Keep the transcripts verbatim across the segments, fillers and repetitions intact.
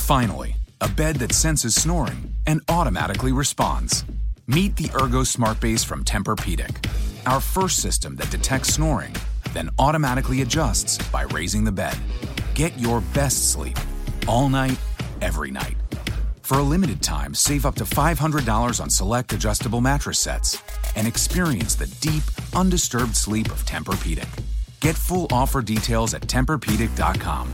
Finally, a bed that senses snoring and automatically responds. Meet the Ergo Smart Base from Tempur-Pedic, our first system that detects snoring, then automatically adjusts by raising the bed. Get your best sleep all night, every night. For a limited time, save up to five hundred dollars on select adjustable mattress sets and experience the deep, undisturbed sleep of Tempur-Pedic. Get full offer details at Tempur Pedic dot com.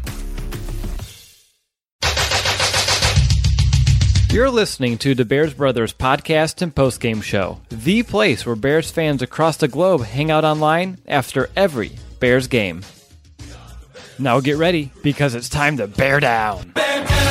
You're listening to the Bears Brothers podcast and postgame show, the place where Bears fans across the globe hang out online after every Bears game. Now get ready, because it's time to bear down. Bear down.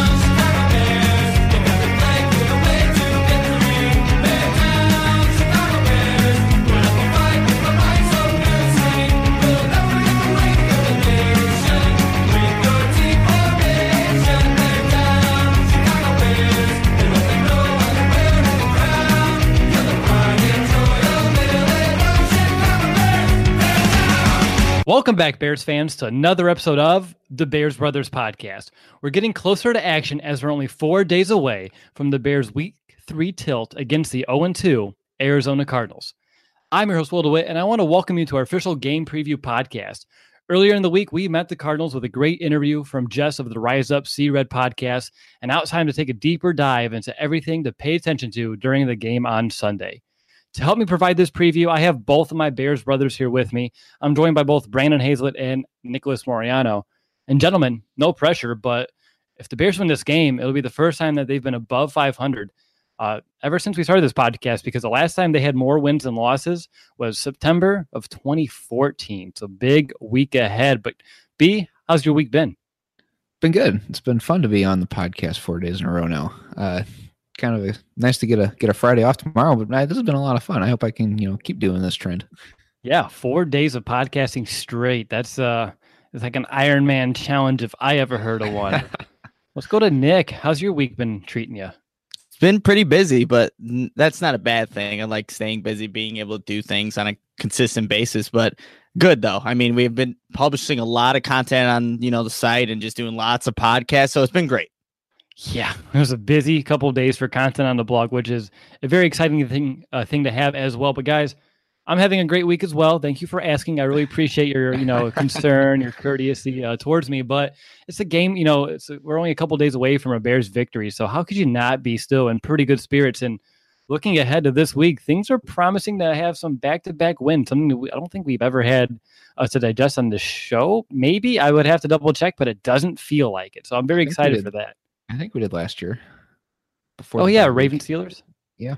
Welcome back, Bears fans, to another episode of the Bears Brothers podcast. We're getting closer to action as we're only four days away from the Bears' Week three tilt against the oh and two Arizona Cardinals. I'm your host, Will DeWitt, and I want to welcome you to our official game preview podcast. Earlier in the week, we met the Cardinals with a great interview from Jess of the Rise Up See Red podcast, and now it's time to take a deeper dive into everything to pay attention to during the game on Sunday. To help me provide this preview, I have both of my Bears brothers here with me. I'm joined by both Brandon Hazlett and Nicholas Moriano. And gentlemen, no pressure, but if the Bears win this game, it'll be the first time that they've been above five hundred uh, ever since we started this podcast, because the last time they had more wins than losses was September of twenty fourteen. So big week ahead. But B, how's your week been? Been good. It's been fun to be on the podcast four days in a row now. Uh, kind of a, nice to get a get a Friday off tomorrow, but uh, this has been a lot of fun. I hope I can, you know, keep doing this trend. Yeah, four days of podcasting straight. That's uh, it's like an Iron Man challenge if I ever heard of one. Let's go to Nick. How's your week been treating you? It's been pretty busy, but n- that's not a bad thing. I like staying busy, being able to do things on a consistent basis, but good though. I mean, we've been publishing a lot of content on, you know, the site and just doing lots of podcasts, so it's been great. Yeah, it was a busy couple of days for content on the blog, which is a very exciting thing uh, thing to have as well. But guys, I'm having a great week as well. Thank you for asking. I really appreciate your, you know, concern, your courtesy uh, towards me. But it's a game, you know, it's a, we're only a couple of days away from a Bears victory. So how could you not be still in pretty good spirits? And looking ahead to this week, things are promising to have some back-to-back wins, something that we, I don't think we've ever had uh, to digest on the show. Maybe I would have to double check, but it doesn't feel like it. So I'm very excited for that. I think we did last year. Before oh, yeah, Raven Steelers? Yeah.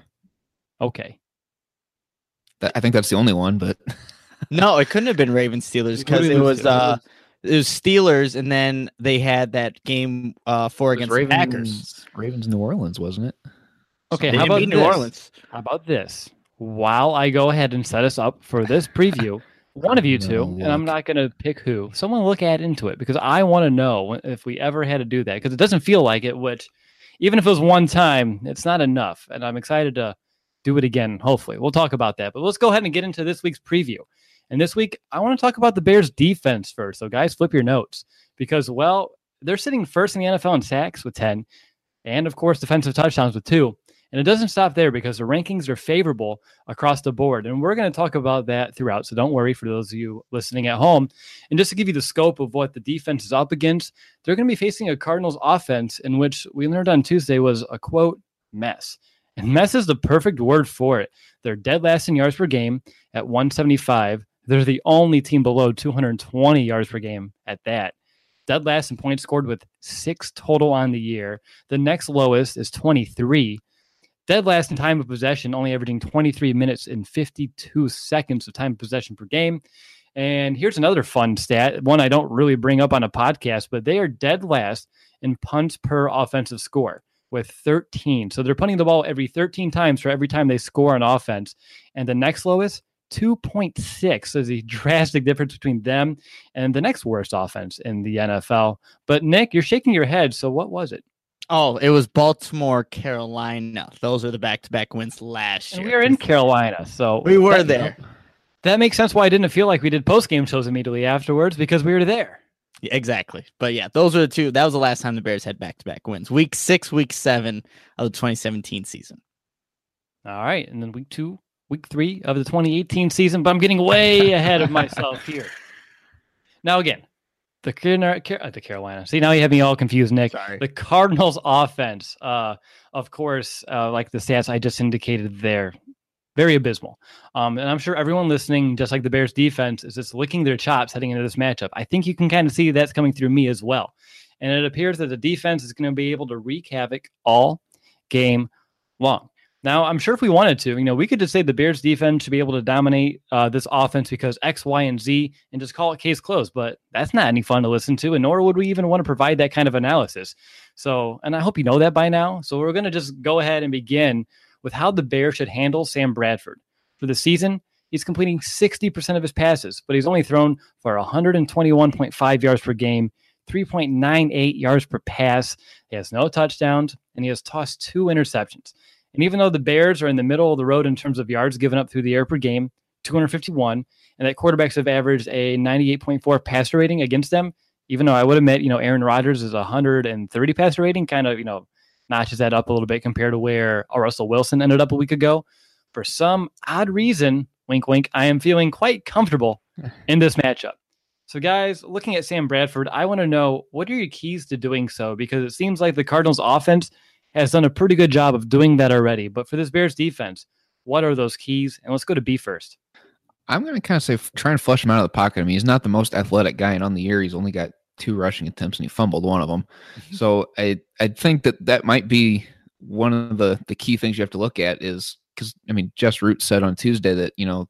Okay. That, I think that's the only one, but... No, it couldn't have been Raven Steelers because it was uh, it was Steelers, and then they had that game uh, four against Ravens, Packers. Ravens New Orleans, wasn't it? Okay, They how didn't about beat this? New Orleans? How about this? While I go ahead and set us up for this preview, one of you No, two, look. and I'm not going to pick who, someone look at into it, because I want to know if we ever had to do that, because it doesn't feel like it, which even if it was one time, it's not enough. And I'm excited to do it again, hopefully. We'll talk about that. But let's go ahead and get into this week's preview. And this week, I want to talk about the Bears defense first. So guys, flip your notes, because, well, they're sitting first in the N F L in sacks with ten, and of course, defensive touchdowns with two. And it doesn't stop there, because the rankings are favorable across the board. And we're going to talk about that throughout. So don't worry for those of you listening at home. And just to give you the scope of what the defense is up against, they're going to be facing a Cardinals offense in which we learned on Tuesday was a, quote, mess. And mess is the perfect word for it. They're dead last in yards per game at one seventy-five. They're the only team below two hundred twenty yards per game at that. Dead last in points scored with six total on the year. The next lowest is twenty-three. Dead last in time of possession, only averaging twenty-three minutes and fifty-two seconds of time of possession per game. And here's another fun stat, one I don't really bring up on a podcast, but they are dead last in punts per offensive score with thirteen. So they're punting the ball every thirteen times for every time they score on offense. And the next lowest, two point six. So there's a drastic difference between them and the next worst offense in the N F L. But Nick, you're shaking your head. So what was it? Oh, it was Baltimore, Carolina. Those are the back-to-back wins last And year. we were in Carolina, so We were that, there. That makes sense why I didn't feel like we did post-game shows immediately afterwards, because we were there. Yeah, exactly. But yeah, those were the two. That was the last time the Bears had back-to-back wins. Week six, week seven of the twenty seventeen season. All right. And then week two, week three of the twenty eighteen season. But I'm getting way ahead of myself here. Now, again, the, Car- the Carolina. See, now you have me all confused, Nick. Sorry. The Cardinals offense, uh, of course, uh, like the stats I just indicated there, very abysmal. Um, and I'm sure everyone listening, just like the Bears defense, is just licking their chops heading into this matchup. I think you can kind of see that's coming through me as well. And it appears that the defense is going to be able to wreak havoc all game long. Now, I'm sure if we wanted to, you know, we could just say the Bears defense should be able to dominate uh, this offense because X, Y, and Z and just call it case closed. But that's not any fun to listen to, and nor would we even want to provide that kind of analysis. So, and I hope you know that by now. So we're going to just go ahead and begin with how the Bears should handle Sam Bradford. For the season, he's completing sixty percent of his passes, but he's only thrown for one twenty-one point five yards per game, three point nine eight yards per pass. He has no touchdowns, and he has tossed two interceptions. And even though the Bears are in the middle of the road in terms of yards given up through the air per game, two fifty-one, and that quarterbacks have averaged a ninety-eight point four passer rating against them, even though I would admit, you know, Aaron Rodgers is one thirty passer rating, kind of, you know, notches that up a little bit compared to where Russell Wilson ended up a week ago. For some odd reason, wink, wink, I am feeling quite comfortable in this matchup. So, guys, looking at Sam Bradford, I want to know, what are your keys to doing so? Because it seems like the Cardinals offense has done a pretty good job of doing that already. But for this Bears defense, what are those keys? And let's go to B first. I'm going to kind of say try and flush him out of the pocket. I mean, he's not the most athletic guy, and on the year, he's only got two rushing attempts, and he fumbled one of them. Mm-hmm. So I I think that that might be one of the, the key things you have to look at is because, I mean, Jess Root said on Tuesday that, you know,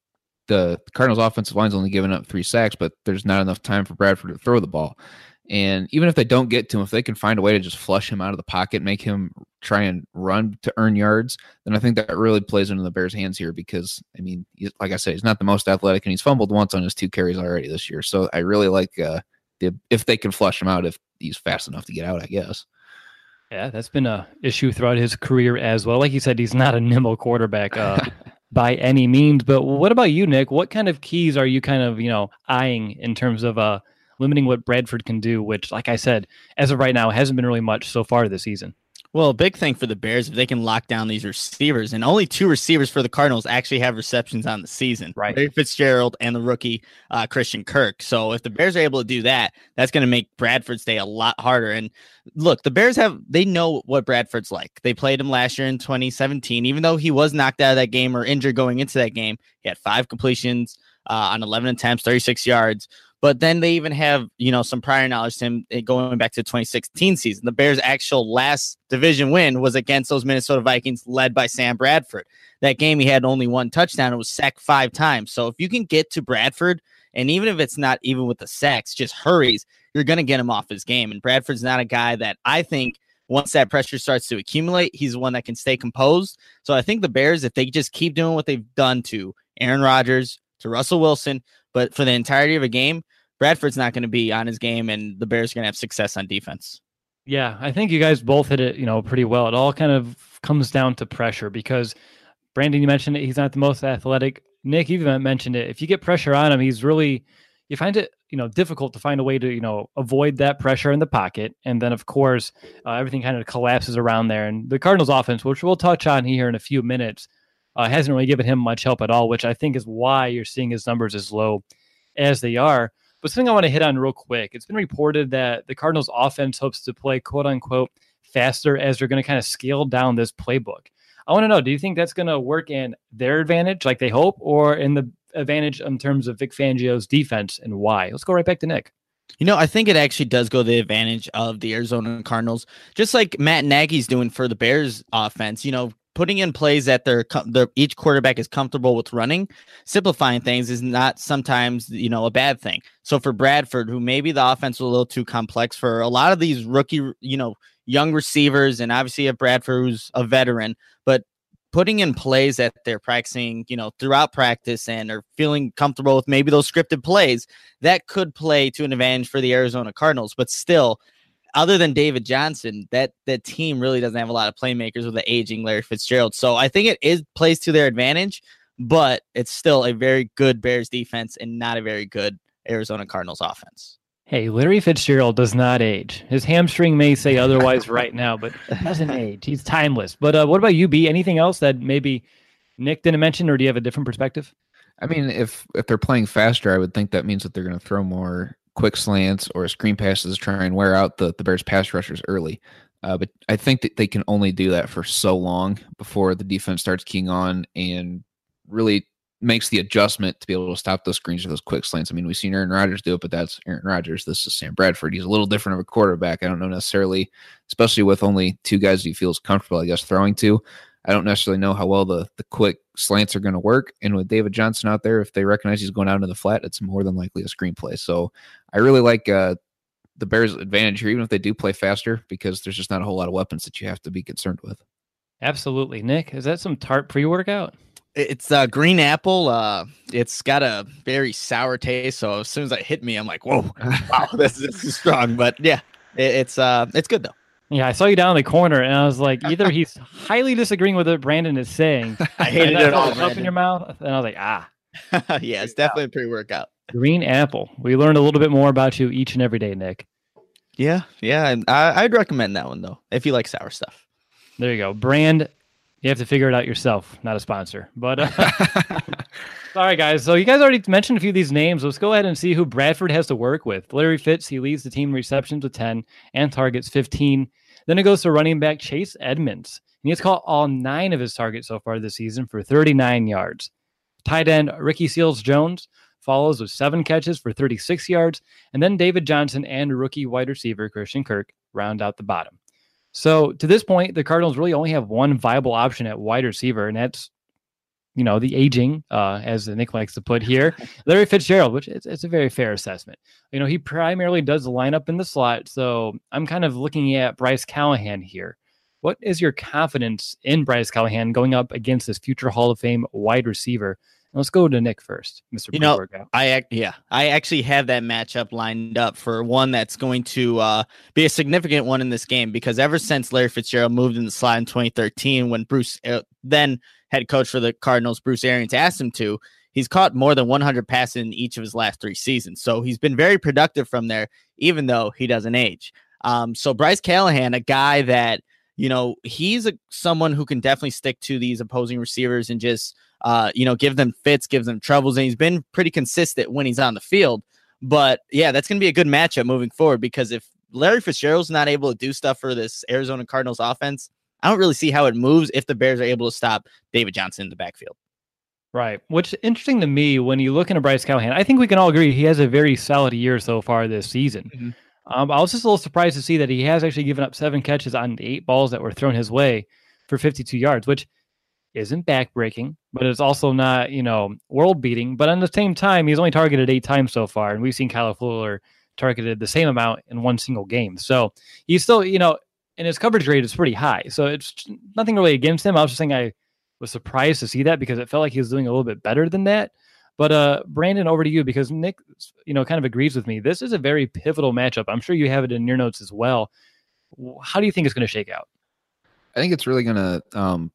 the Cardinals offensive line's only given up three sacks, but there's not enough time for Bradford to throw the ball. And even if they don't get to him, if they can find a way to just flush him out of the pocket, make him try and run to earn yards, then I think that really plays into the Bears' hands here because, I mean, he's, like I said, he's not the most athletic, and he's fumbled once on his two carries already this year. So I really like uh, the if they can flush him out, if he's fast enough to get out, I guess. Yeah, that's been a issue throughout his career as well. Like you said, he's not a nimble quarterback uh, by any means. But what about you, Nick? What kind of keys are you kind of, you know, eyeing in terms of uh, limiting what Bradford can do, which, like I said, as of right now, hasn't been really much so far this season? Well, a big thing for the Bears, if they can lock down these receivers, and only two receivers for the Cardinals actually have receptions on the season, right? Larry Fitzgerald and the rookie uh, Christian Kirk. So if the Bears are able to do that, that's going to make Bradford's day a lot harder. And look, the Bears have, they know what Bradford's like. They played him last year in twenty seventeen, even though he was knocked out of that game or injured going into that game. He had five completions uh, on eleven attempts, thirty-six yards. But then they even have, you know, some prior knowledge to him going back to the twenty sixteen season. The Bears' actual last division win was against those Minnesota Vikings led by Sam Bradford. That game, he had only one touchdown. It was sacked five times. So if you can get to Bradford, and even if it's not even with the sacks, just hurries, you're going to get him off his game. And Bradford's not a guy that I think once that pressure starts to accumulate, he's the one that can stay composed. So I think the Bears, if they just keep doing what they've done to Aaron Rodgers, to Russell Wilson, but for the entirety of a game, Bradford's not going to be on his game, and the Bears are going to have success on defense. Yeah, I think you guys both hit it, you know, pretty well. It all kind of comes down to pressure because Brandon, you mentioned it. He's not the most athletic. Nick, you even mentioned it. If you get pressure on him, he's really, you find it, you know, difficult to find a way to, you know, avoid that pressure in the pocket. And then, of course, uh, everything kind of collapses around there. And the Cardinals offense, which we'll touch on here in a few minutes, uh, hasn't really given him much help at all, which I think is why you're seeing his numbers as low as they are. But something I want to hit on real quick. It's been reported that the Cardinals offense hopes to play quote unquote faster as they're going to kind of scale down this playbook. I want to know, do you think that's going to work in their advantage like they hope, or in the advantage in terms of Vic Fangio's defense, and why? Let's go right back to Nick. You know, I think it actually does go the advantage of the Arizona Cardinals, just like Matt Nagy's doing for the Bears offense. You know, putting in plays that they're, they're each quarterback is comfortable with running, simplifying things is not sometimes, you know, a bad thing. So for Bradford, who maybe the offense was a little too complex for a lot of these rookie, you know, young receivers, and obviously a Bradford who's a veteran, but putting in plays that they're practicing, you know, throughout practice and are feeling comfortable with maybe those scripted plays, that could play to an advantage for the Arizona Cardinals. But still, other than David Johnson, that that team really doesn't have a lot of playmakers with the aging Larry Fitzgerald. So I think it is plays to their advantage, but it's still a very good Bears defense and not a very good Arizona Cardinals offense. Hey, Larry Fitzgerald does not age. His hamstring may say otherwise right now, but doesn't age. He's timeless. But uh, what about you, B? Anything else that maybe Nick didn't mention, or do you have a different perspective? I mean, if if they're playing faster, I would think that means that they're going to throw more quick slants or screen passes to try and wear out the, the Bears pass rushers early. Uh, but I think that they can only do that for so long before the defense starts keying on and really makes the adjustment to be able to stop those screens or those quick slants. I mean, we've seen Aaron Rodgers do it, but that's Aaron Rodgers. This is Sam Bradford. He's a little different of a quarterback. I don't know necessarily, especially with only two guys he feels comfortable, I guess, throwing to. I don't necessarily know how well the, the quick slants are going to work. And with David Johnson out there, if they recognize he's going out into the flat, it's more than likely a screenplay. So I really like uh, the Bears' advantage here, even if they do play faster, because there's just not a whole lot of weapons that you have to be concerned with. Absolutely. Nick, is that some tart pre-workout? It's uh, green apple. Uh, it's got a very sour taste. So as soon as it hit me, I'm like, whoa, wow, this, this is strong. But yeah, it, it's uh, it's good though. Yeah, I saw you down in the corner, and I was like, either he's highly disagreeing with what Brandon is saying. I hated it all. Up in your mouth, and I was like, ah. Yeah, it's definitely a pre-workout. Green apple. We learned a little bit more about you each and every day, Nick. Yeah, yeah, and I, I'd recommend that one though if you like sour stuff. There you go, Brand. You have to figure it out yourself, not a sponsor. But uh, all right, guys. So you guys already mentioned a few of these names. Let's go ahead and see who Bradford has to work with. Larry Fitz, he leads the team in receptions with ten and targets fifteen. Then it goes to running back Chase Edmonds. And he has caught all nine of his targets so far this season for thirty-nine yards. Tight end Ricky Seals-Jones follows with seven catches for thirty-six yards. And then David Johnson and rookie wide receiver Christian Kirk round out the bottom. So to this point, the Cardinals really only have one viable option at wide receiver, and that's, you know, the aging, uh, as Nick likes to put here, Larry Fitzgerald, which is it's a very fair assessment. You know, he primarily does the lineup in the slot, so I'm kind of looking at Bryce Callahan here. What is your confidence in Bryce Callahan going up against this future Hall of Fame wide receiver? Let's go to Nick first, Mister You know, I yeah, I actually have that matchup lined up for one that's going to uh, be a significant one in this game, because ever since Larry Fitzgerald moved in the slot in twenty thirteen, when Bruce, uh, then head coach for the Cardinals, Bruce Arians, asked him to, he's caught more than one hundred passes in each of his last three seasons. So he's been very productive from there, even though he doesn't age. Um, so Bryce Callahan, a guy that, you know, he's a someone who can definitely stick to these opposing receivers and just, uh, you know, give them fits, give them troubles. And he's been pretty consistent when he's on the field. But yeah, that's going to be a good matchup moving forward, because if Larry Fitzgerald's not able to do stuff for this Arizona Cardinals offense, I don't really see how it moves if the Bears are able to stop David Johnson in the backfield. Right. Which interesting to me when you look into Bryce Callahan, I think we can all agree he has a very solid year so far this season. Mm-hmm. Um, I was just a little surprised to see that he has actually given up seven catches on eight balls that were thrown his way for fifty-two yards, which isn't backbreaking, but it's also not, you know, world beating. But at the same time, he's only targeted eight times so far, and we've seen Kyle Fuller targeted the same amount in one single game. So he's still, you know, and his coverage rate is pretty high. So it's nothing really against him. I was just saying I was surprised to see that, because it felt like he was doing a little bit better than that. But uh, Brandon, over to you, because Nick, you know, kind of agrees with me. This is a very pivotal matchup. I'm sure you have it in your notes as well. How do you think it's going to shake out? I think it's really going to um,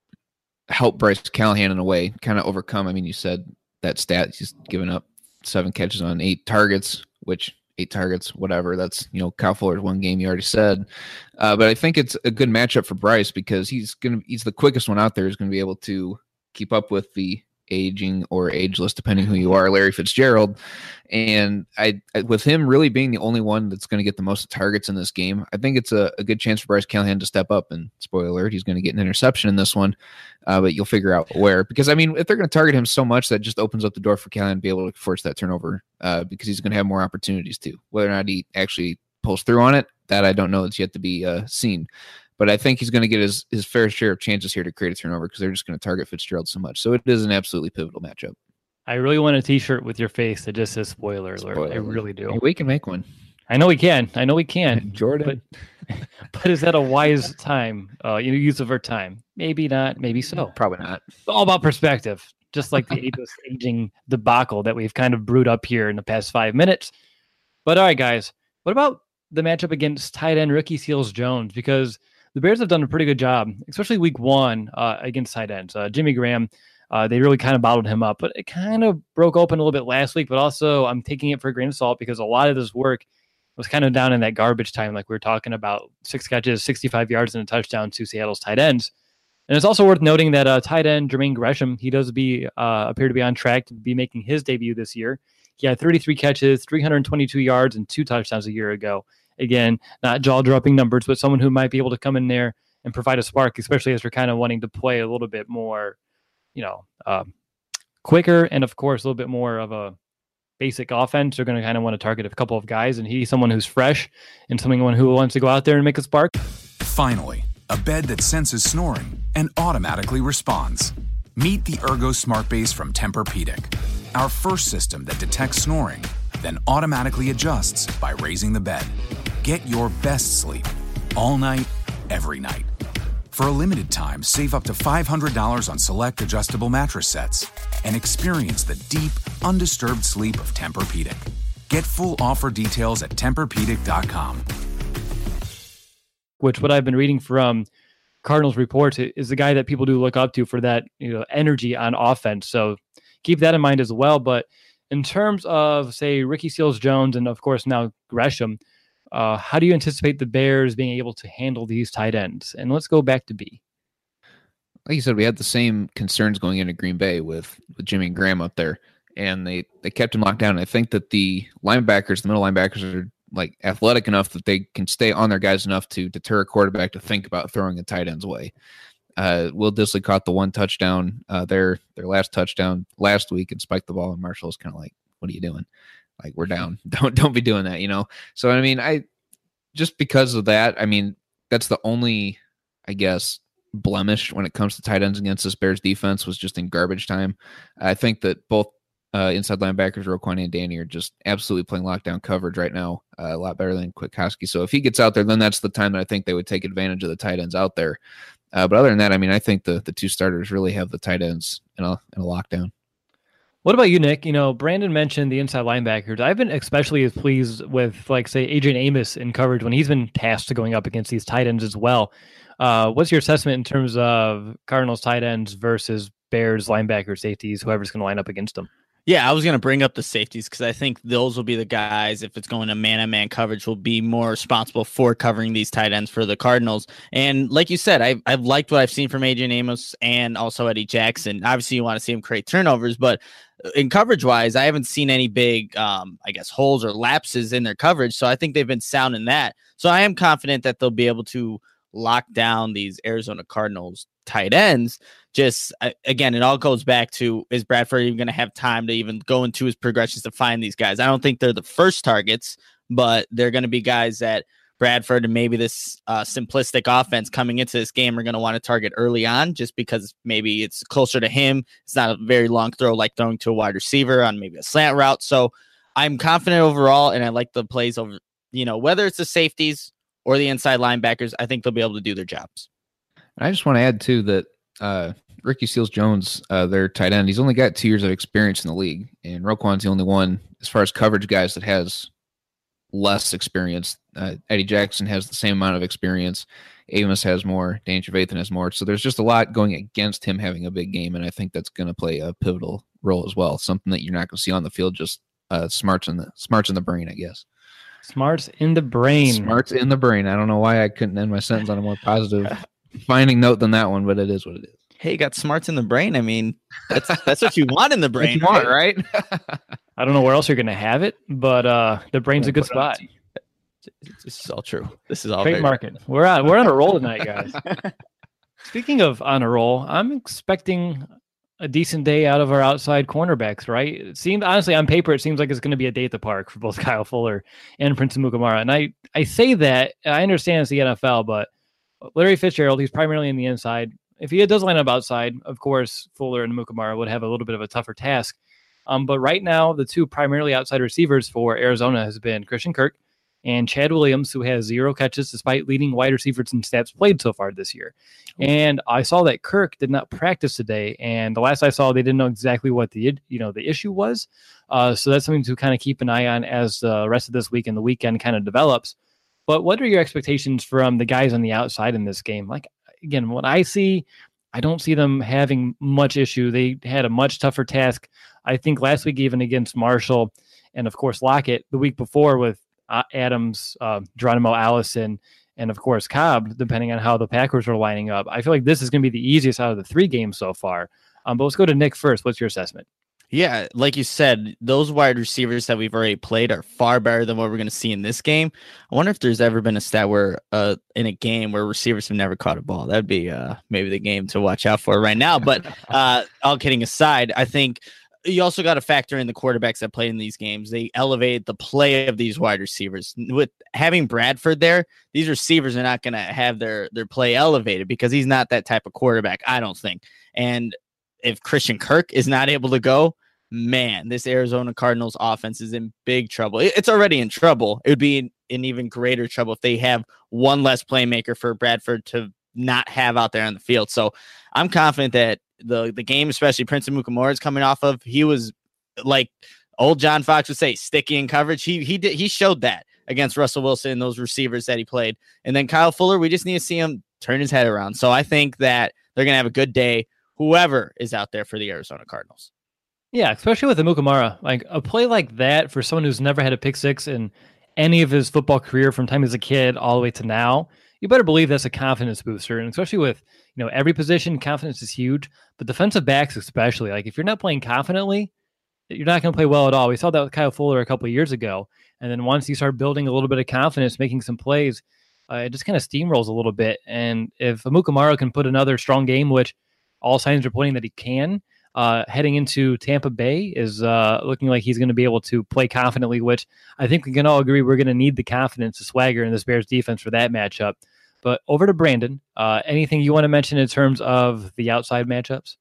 help Bryce Callahan in a way, kind of overcome. I mean, you said that stat, he's given up seven catches on eight targets, which eight targets, whatever. That's, you know, Kyle Fuller's one game, you already said. Uh, but I think it's a good matchup for Bryce, because he's going to, he's the quickest one out there. He's going to be able to keep up with the aging or ageless, depending who you are, Larry Fitzgerald. And I, I with him really being the only one that's going to get the most targets in this game, I think it's a, a good chance for Bryce Callahan to step up. And spoiler alert, he's going to get an interception in this one, uh, but you'll figure out where. Because, I mean, if they're going to target him so much, that just opens up the door for Callahan to be able to force that turnover, uh, because he's going to have more opportunities too. Whether or not he actually pulls through on it, that I don't know. It's yet to be uh, seen. But I think he's going to get his, his fair share of chances here to create a turnover, because they're just going to target Fitzgerald so much. So it is an absolutely pivotal matchup. I really want a T-shirt with your face that just says spoiler alert. Spoiler. I really do. Hey, we can make one. I know we can. I know we can. Jordan. But, but is that a wise time, uh, you know, use of our time? Maybe not. Maybe so. Probably not. It's all about perspective, just like the ageless aging debacle that we've kind of brewed up here in the past five minutes. But all right, guys, what about the matchup against tight end Ricky Seals-Jones? Because the Bears have done a pretty good job, especially week one uh, against tight ends. Uh, Jimmy Graham Uh, they really kind of bottled him up, but it kind of broke open a little bit last week. But also, I'm taking it for a grain of salt because a lot of this work was kind of down in that garbage time, like we were talking about, six catches, sixty-five yards, and a touchdown to Seattle's tight ends. And it's also worth noting that uh, tight end Jermaine Gresham, he does be uh, appear to be on track to be making his debut this year. He had thirty-three catches, three hundred twenty-two yards, and two touchdowns a year ago. Again, not jaw-dropping numbers, but someone who might be able to come in there and provide a spark, especially as we're kind of wanting to play a little bit more, you know, uh, quicker, and of course, a little bit more of a basic offense. They're going to kind of want to target a couple of guys, and he's someone who's fresh and someone who wants to go out there and make a spark. Finally, a bed that senses snoring and automatically responds. Meet the Ergo Smart Base from Tempur-Pedic, our first system that detects snoring, then automatically adjusts by raising the bed. Get your best sleep all night, every night. For a limited time, save up to five hundred dollars on select adjustable mattress sets and experience the deep, undisturbed sleep of Tempur-Pedic. Get full offer details at Tempur Pedic dot com. Which what I've been reading from Cardinals reports is the guy that people do look up to for that, you know, energy on offense. So keep that in mind as well. But in terms of, say, Ricky Seals-Jones and, of course, now Gresham, uh, how do you anticipate the Bears being able to handle these tight ends? And let's go back to B. Like you said, we had the same concerns going into Green Bay with, with Jimmy and Graham up there, and they, they kept him locked down. And I think that the linebackers, the middle linebackers, are like athletic enough that they can stay on their guys enough to deter a quarterback to think about throwing a tight end's way. Uh, Will Dissly caught the one touchdown, uh, their their last touchdown last week, and spiked the ball. And Marshall's kind of like, "What are you doing? Like, we're down. Don't don't be doing that, you know." So I mean, I just because of that, I mean, that's the only, I guess, blemish when it comes to tight ends against this Bears defense was just in garbage time. I think that both uh, inside linebackers, Roquan and Danny, are just absolutely playing lockdown coverage right now, uh, a lot better than Kwiatkowski. So if he gets out there, then that's the time that I think they would take advantage of the tight ends out there. Uh, but other than that, I mean, I think the the two starters really have the tight ends in a in a lockdown. What about you, Nick? You know, Brandon mentioned the inside linebackers. I've been especially as pleased with, like, say, Adrian Amos in coverage when he's been tasked to going up against these tight ends as well. Uh, what's your assessment in terms of Cardinals tight ends versus Bears linebacker safeties, whoever's going to line up against them? Yeah, I was going to bring up the safeties because I think those will be the guys, if it's going to man-on-man coverage, will be more responsible for covering these tight ends for the Cardinals. And like you said, I've, I've liked what I've seen from Adrian Amos and also Eddie Jackson. Obviously, you want to see him create turnovers, but in coverage-wise, I haven't seen any big, um, I guess, holes or lapses in their coverage, so I think they've been sound in that. So I am confident that they'll be able to lock down these Arizona Cardinals tight ends. Just again, it all goes back to, is Bradford even going to have time to even go into his progressions to find these guys? I don't think they're the first targets, but they're going to be guys that Bradford and maybe this uh, simplistic offense coming into this game are going to want to target early on, just because maybe it's closer to him. It's not a very long throw like throwing to a wide receiver on maybe a slant route. So I'm confident overall, and I like the plays over, you know, whether it's the safeties or the inside linebackers, I think they'll be able to do their jobs. I just want to add too that uh, Ricky Seals-Jones, uh, their tight end, he's only got two years of experience in the league, and Roquan's the only one as far as coverage guys that has less experience. Uh, Eddie Jackson has the same amount of experience. Amos has more. Danny Trevathan has more. So there's just a lot going against him having a big game, and I think that's going to play a pivotal role as well. Something that you're not going to see on the field. Just uh, smarts in the smarts in the brain, I guess. Smarts in the brain. Smarts in the brain. I don't know why I couldn't end my sentence on a more positive finding note than that one, but it is what it is. Hey, you got smarts in the brain. I mean, that's that's what you want in the brain. You want, right? I don't know where else you're going to have it, but uh, the brain's a good spot. This is all true. This is all great market. We're on we're on a roll tonight, guys. Speaking of on a roll, I'm expecting a decent day out of our outside cornerbacks, right? It seems, honestly, on paper, it seems like it's going to be a day at the park for both Kyle Fuller and Prince Amukamara. And I, I say that, I understand it's the N F L, but Larry Fitzgerald, he's primarily in the inside. If he does line up outside, of course, Fuller and Amukamara would have a little bit of a tougher task. Um, but right now, the two primarily outside receivers for Arizona has been Christian Kirk and Chad Williams, who has zero catches despite leading wide receivers in snaps played so far this year. And I saw that Kirk did not practice today, and the last I saw, they didn't know exactly what the you know the issue was. Uh, so that's something to kind of keep an eye on as the rest of this week and the weekend kind of develops. But what are your expectations from the guys on the outside in this game? Like, again, what I see, I don't see them having much issue. They had a much tougher task, I think, last week, even against Marshall. And of course, Lockett the week before with uh, Adams, uh, Geronimo Allison, and of course, Cobb, depending on how the Packers are lining up. I feel like this is going to be the easiest out of the three games so far. Um, but let's go to Nick first. What's your assessment? Yeah, like you said, those wide receivers that we've already played are far better than what we're going to see in this game. I wonder if there's ever been a stat where uh, in a game where receivers have never caught a ball. That'd be uh, maybe the game to watch out for right now. But uh, all kidding aside, I think you also got to factor in the quarterbacks that played in these games. They elevate the play of these wide receivers. With having Bradford there, these receivers are not going to have their, their play elevated because he's not that type of quarterback, I don't think. And if Christian Kirk is not able to go, man, this Arizona Cardinals offense is in big trouble. It's already in trouble. It would be in, in even greater trouble if they have one less playmaker for Bradford to not have out there on the field. So I'm confident that the, the game, especially Prince Amukamara is coming off of, he was like old John Fox would say, sticky in coverage. He he did he showed that against Russell Wilson and those receivers that he played. And then Kyle Fuller, we just need to see him turn his head around. So I think that they're going to have a good day, whoever is out there for the Arizona Cardinals. Yeah, especially with Amukamara, like a play like that for someone who's never had a pick six in any of his football career from time as a kid all the way to now, you better believe that's a confidence booster. And especially with, you know, every position, confidence is huge, but defensive backs especially, like if you're not playing confidently, you're not going to play well at all. We saw that with Kyle Fuller a couple of years ago. And then once you start building a little bit of confidence, making some plays, uh, it just kind of steamrolls a little bit. And if Amukamara can put another strong game, which all signs are pointing that he can, Uh, heading into Tampa Bay is uh, looking like he's going to be able to play confidently, which I think we can all agree we're going to need the confidence, the swagger in this Bears defense for that matchup. But over to Brandon, uh, anything you want to mention in terms of the outside matchups?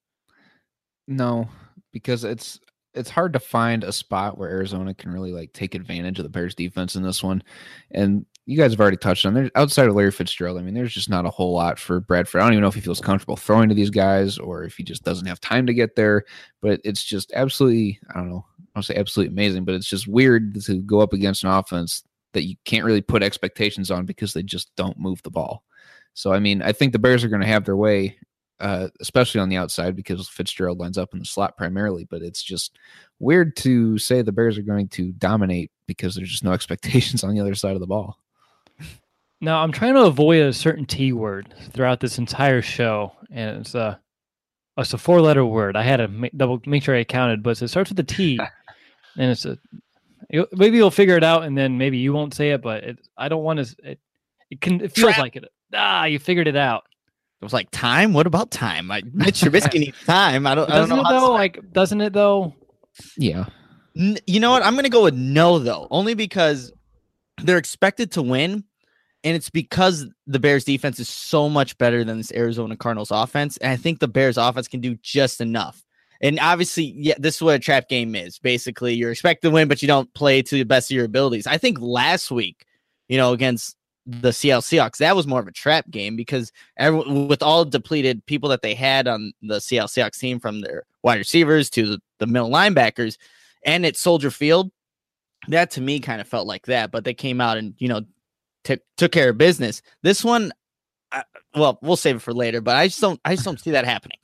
No, because it's it's hard to find a spot where Arizona can really like take advantage of the Bears defense in this one. And you guys have already touched on there outside of Larry Fitzgerald. I mean, there's just not a whole lot for Bradford. I don't even know if he feels comfortable throwing to these guys or if he just doesn't have time to get there, but it's just absolutely, I don't know, I don't say absolutely amazing, but it's just weird to go up against an offense that you can't really put expectations on because they just don't move the ball. So, I mean, I think the Bears are going to have their way, uh, especially on the outside because Fitzgerald lines up in the slot primarily, but it's just weird to say the Bears are going to dominate because there's just no expectations on the other side of the ball. Now, I'm trying to avoid a certain T word throughout this entire show, and it's a, it's a four-letter word. I had to make, double make sure I counted, but it starts with a T, and it's a. You, maybe you'll figure it out, and then maybe you won't say it, but it, I don't want to. It, it can. It feels Trap. like it. Ah, you figured it out. It was like time. What about time? I, Mitch Trubisky needs time. I don't. I don't Doesn't know. it how though? to- Like, doesn't it though? Yeah. N- You know what? I'm going to go with no, though, only because they're expected to win. And it's because the Bears defense is so much better than this Arizona Cardinals offense. And I think the Bears offense can do just enough. And obviously, yeah, this is what a trap game is. Basically, you're expected to win, but you don't play to the best of your abilities. I think last week, you know, against the Seattle Seahawks, that was more of a trap game because every, with all depleted people that they had on the Seattle Seahawks team, from their wide receivers to the, the middle linebackers, and at Soldier Field, that to me kind of felt like that. But they came out and, you know, Took took care of business. This one, I, well, we'll save it for later. But I just don't, I just don't see that happening.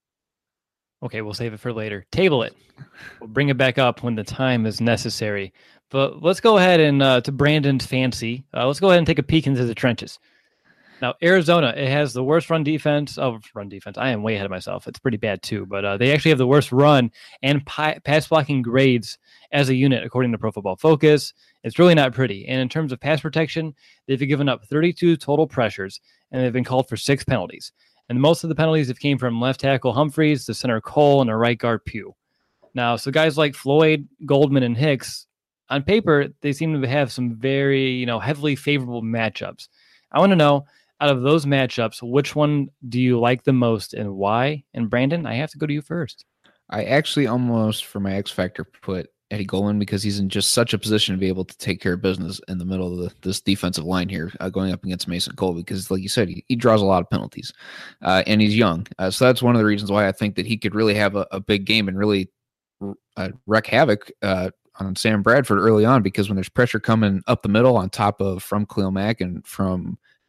Okay, we'll save it for later. Table it. We'll bring it back up when the time is necessary. But let's go ahead and uh, to Brandon's fancy. Uh, let's go ahead and take a peek into the trenches. Now, Arizona, it has the worst run defense of run defense. I am way ahead of myself. It's pretty bad too, but uh, they actually have the worst run and pi- pass blocking grades as a unit, according to Pro Football Focus. It's really not pretty. And in terms of pass protection, they've given up thirty-two total pressures, and they've been called for six penalties. And most of the penalties have came from left tackle Humphreys, the center Cole, and a right guard Pugh. Now, so guys like Floyd, Goldman, and Hicks, on paper, they seem to have some very, you know, heavily favorable matchups. I want to know, out of those matchups, which one do you like the most and why? And Brandon, I have to go to you first. I actually almost, for my X Factor, put Eddie Goldman because he's in just such a position to be able to take care of business in the middle of the, this defensive line here, uh, going up against Mason Cole, because like you said, he, he draws a lot of penalties uh, and he's young. Uh, so that's one of the reasons why I think that he could really have a, a big game and really uh, wreak havoc uh, on Sam Bradford early on, because when there's pressure coming up the middle on top of from Khalil Mack and from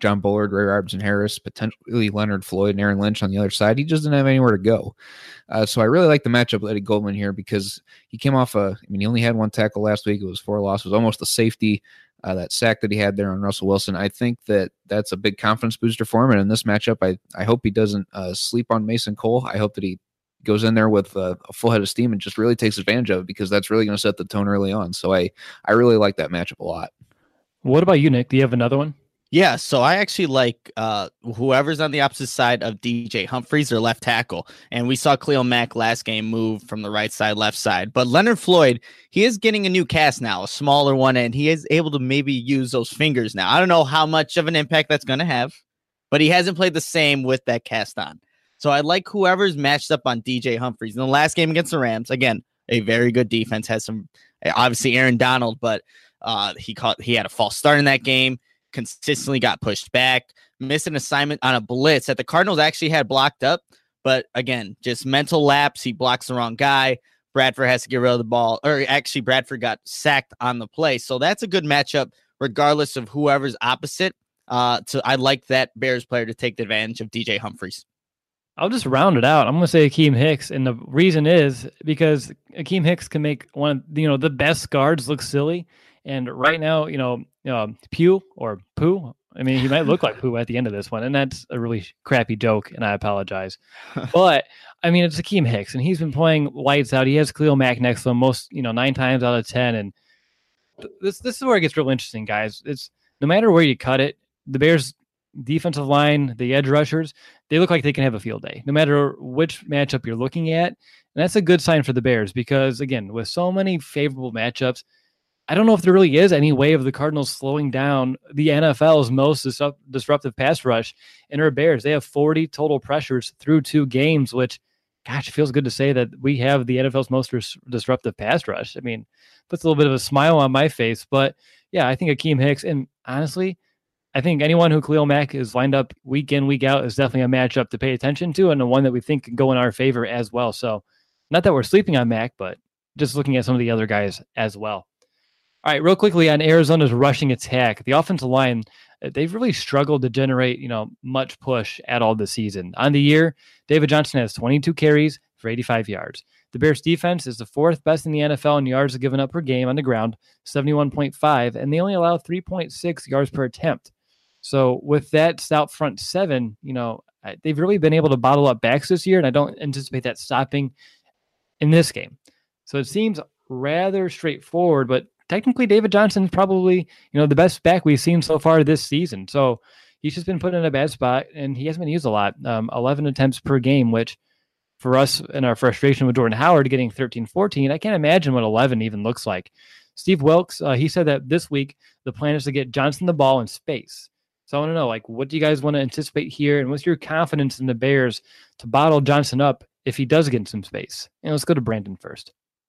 John Bullard, Ray Robertson Harris, potentially Leonard Floyd and Aaron Lynch on the other side. He just didn't have anywhere to go. Uh, so I really like the matchup with Eddie Goldman here because he came off a, I mean, he only had one tackle last week. It was four losses, almost a safety. Uh, that sack that he had there on Russell Wilson, I think that that's a big confidence booster for him. And in this matchup, I, I hope he doesn't uh, sleep on Mason Cole. I hope that he goes in there with uh, a full head of steam and just really takes advantage of it because that's really going to set the tone early on. So I, I really like that matchup a lot. What about you, Nick? Do you have another one? Yeah, so I actually like uh, whoever's on the opposite side of D J Humphries, their left tackle. And we saw Khalil Mack last game move from the right side, left side. But Leonard Floyd, he is getting a new cast now, a smaller one, and he is able to maybe use those fingers now. I don't know how much of an impact that's going to have, but he hasn't played the same with that cast on. So I like whoever's matched up on D J Humphries. In the last game against the Rams, again, a very good defense, has some, obviously Aaron Donald, but uh, he caught he had a false start in that game. Consistently got pushed back, missed an assignment on a blitz that the Cardinals actually had blocked up. But again, just mental lapse. He blocks the wrong guy. Bradford has to get rid of the ball, or actually Bradford got sacked on the play. So that's a good matchup, regardless of whoever's opposite. Uh, so I like that Bears player to take advantage of D J Humphries. I'll just round it out. I'm going to say Akeem Hicks. And the reason is because Akeem Hicks can make one of, you know, the best guards look silly. And right now, you know, um, Pew or Pooh, I mean, he might look like Pooh at the end of this one. And that's a really crappy joke, and I apologize. But, I mean, it's Akeem Hicks, and he's been playing lights out. He has Khalil Mack next to him most, you know, nine times out of ten. And th- this this is where it gets real interesting, guys. It's no matter where you cut it, the Bears' defensive line, the edge rushers, they look like they can have a field day, no matter which matchup you're looking at. And that's a good sign for the Bears because, again, with so many favorable matchups, I don't know if there really is any way of the Cardinals slowing down the N F L's most disrupt- disruptive pass rush in our Bears. They have forty total pressures through two games, which, gosh, it feels good to say that we have the N F L's most dis- disruptive pass rush. I mean, puts a little bit of a smile on my face. But, yeah, I think Akeem Hicks, and honestly, I think anyone who Khalil Mack is lined up week in, week out is definitely a matchup to pay attention to and the one that we think can go in our favor as well. So not that we're sleeping on Mack, but just looking at some of the other guys as well. All right, real quickly on Arizona's rushing attack, the offensive line, they've really struggled to generate, you know, much push at all this season. On the year, David Johnson has twenty-two carries for eighty-five yards. The Bears defense is the fourth best in the N F L in yards given up per game on the ground, seventy-one point five, and they only allow three point six yards per attempt. So with that stout front seven, you know, they've really been able to bottle up backs this year, and I don't anticipate that stopping in this game. So it seems rather straightforward, but technically David Johnson's probably, you know, the best back we've seen so far this season. So he's just been put in a bad spot, and he hasn't been used a lot. Um, eleven attempts per game, which for us in our frustration with Jordan Howard getting thirteen, fourteen, I can't imagine what eleven even looks like. Steve Wilkes, uh, he said that this week the plan is to get Johnson the ball in space. So I want to know, like, what do you guys want to anticipate here? And what's your confidence in the Bears to bottle Johnson up if he does get in some space? And let's go to Brandon first.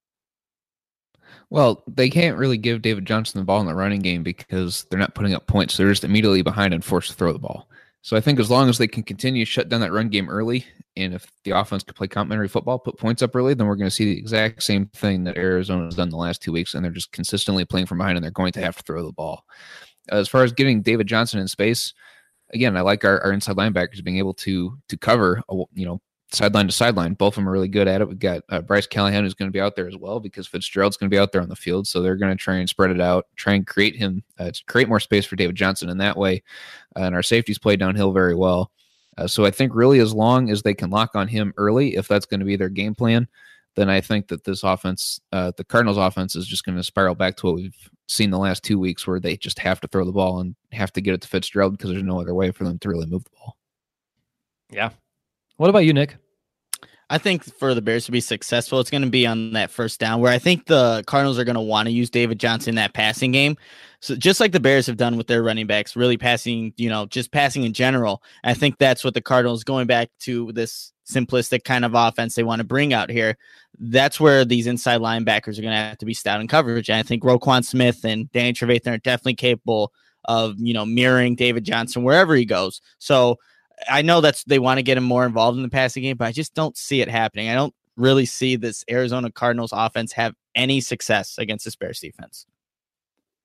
Well, they can't really give David Johnson the ball in the running game because they're not putting up points. They're just immediately behind and forced to throw the ball. So I think as long as they can continue to shut down that run game early, and if the offense can play complementary football, put points up early, then we're going to see the exact same thing that Arizona has done the last two weeks, and they're just consistently playing from behind, and they're going to have to throw the ball. As far as getting David Johnson in space, again, I like our, our inside linebackers being able to to cover, a, you know, sideline to sideline. Both of them are really good at it. We've got uh, Bryce Callahan who's going to be out there as well because Fitzgerald's going to be out there on the field. So they're going to try and spread it out, try and create him, uh, to create more space for David Johnson in that way. Uh, and our safeties play downhill very well. Uh, so I think really as long as they can lock on him early, if that's going to be their game plan, then I think that this offense, uh, the Cardinals offense is just going to spiral back to what we've seen the last two weeks where they just have to throw the ball and have to get it to Fitzgerald because there's no other way for them to really move the ball. Yeah. What about you, Nick? I think for the Bears to be successful, it's going to be on that first down where I think the Cardinals are going to want to use David Johnson in that passing game. So just like the Bears have done with their running backs, really passing, you know, just passing in general. I think that's what the Cardinals, going back to this simplistic kind of offense they want to bring out here. That's where these inside linebackers are going to have to be stout in coverage. And I think Roquan Smith and Danny Trevathan are definitely capable of, you know, mirroring David Johnson wherever he goes. So I know that's they want to get him more involved in the passing game, but I just don't see it happening. I don't really see this Arizona Cardinals offense have any success against this Bears defense.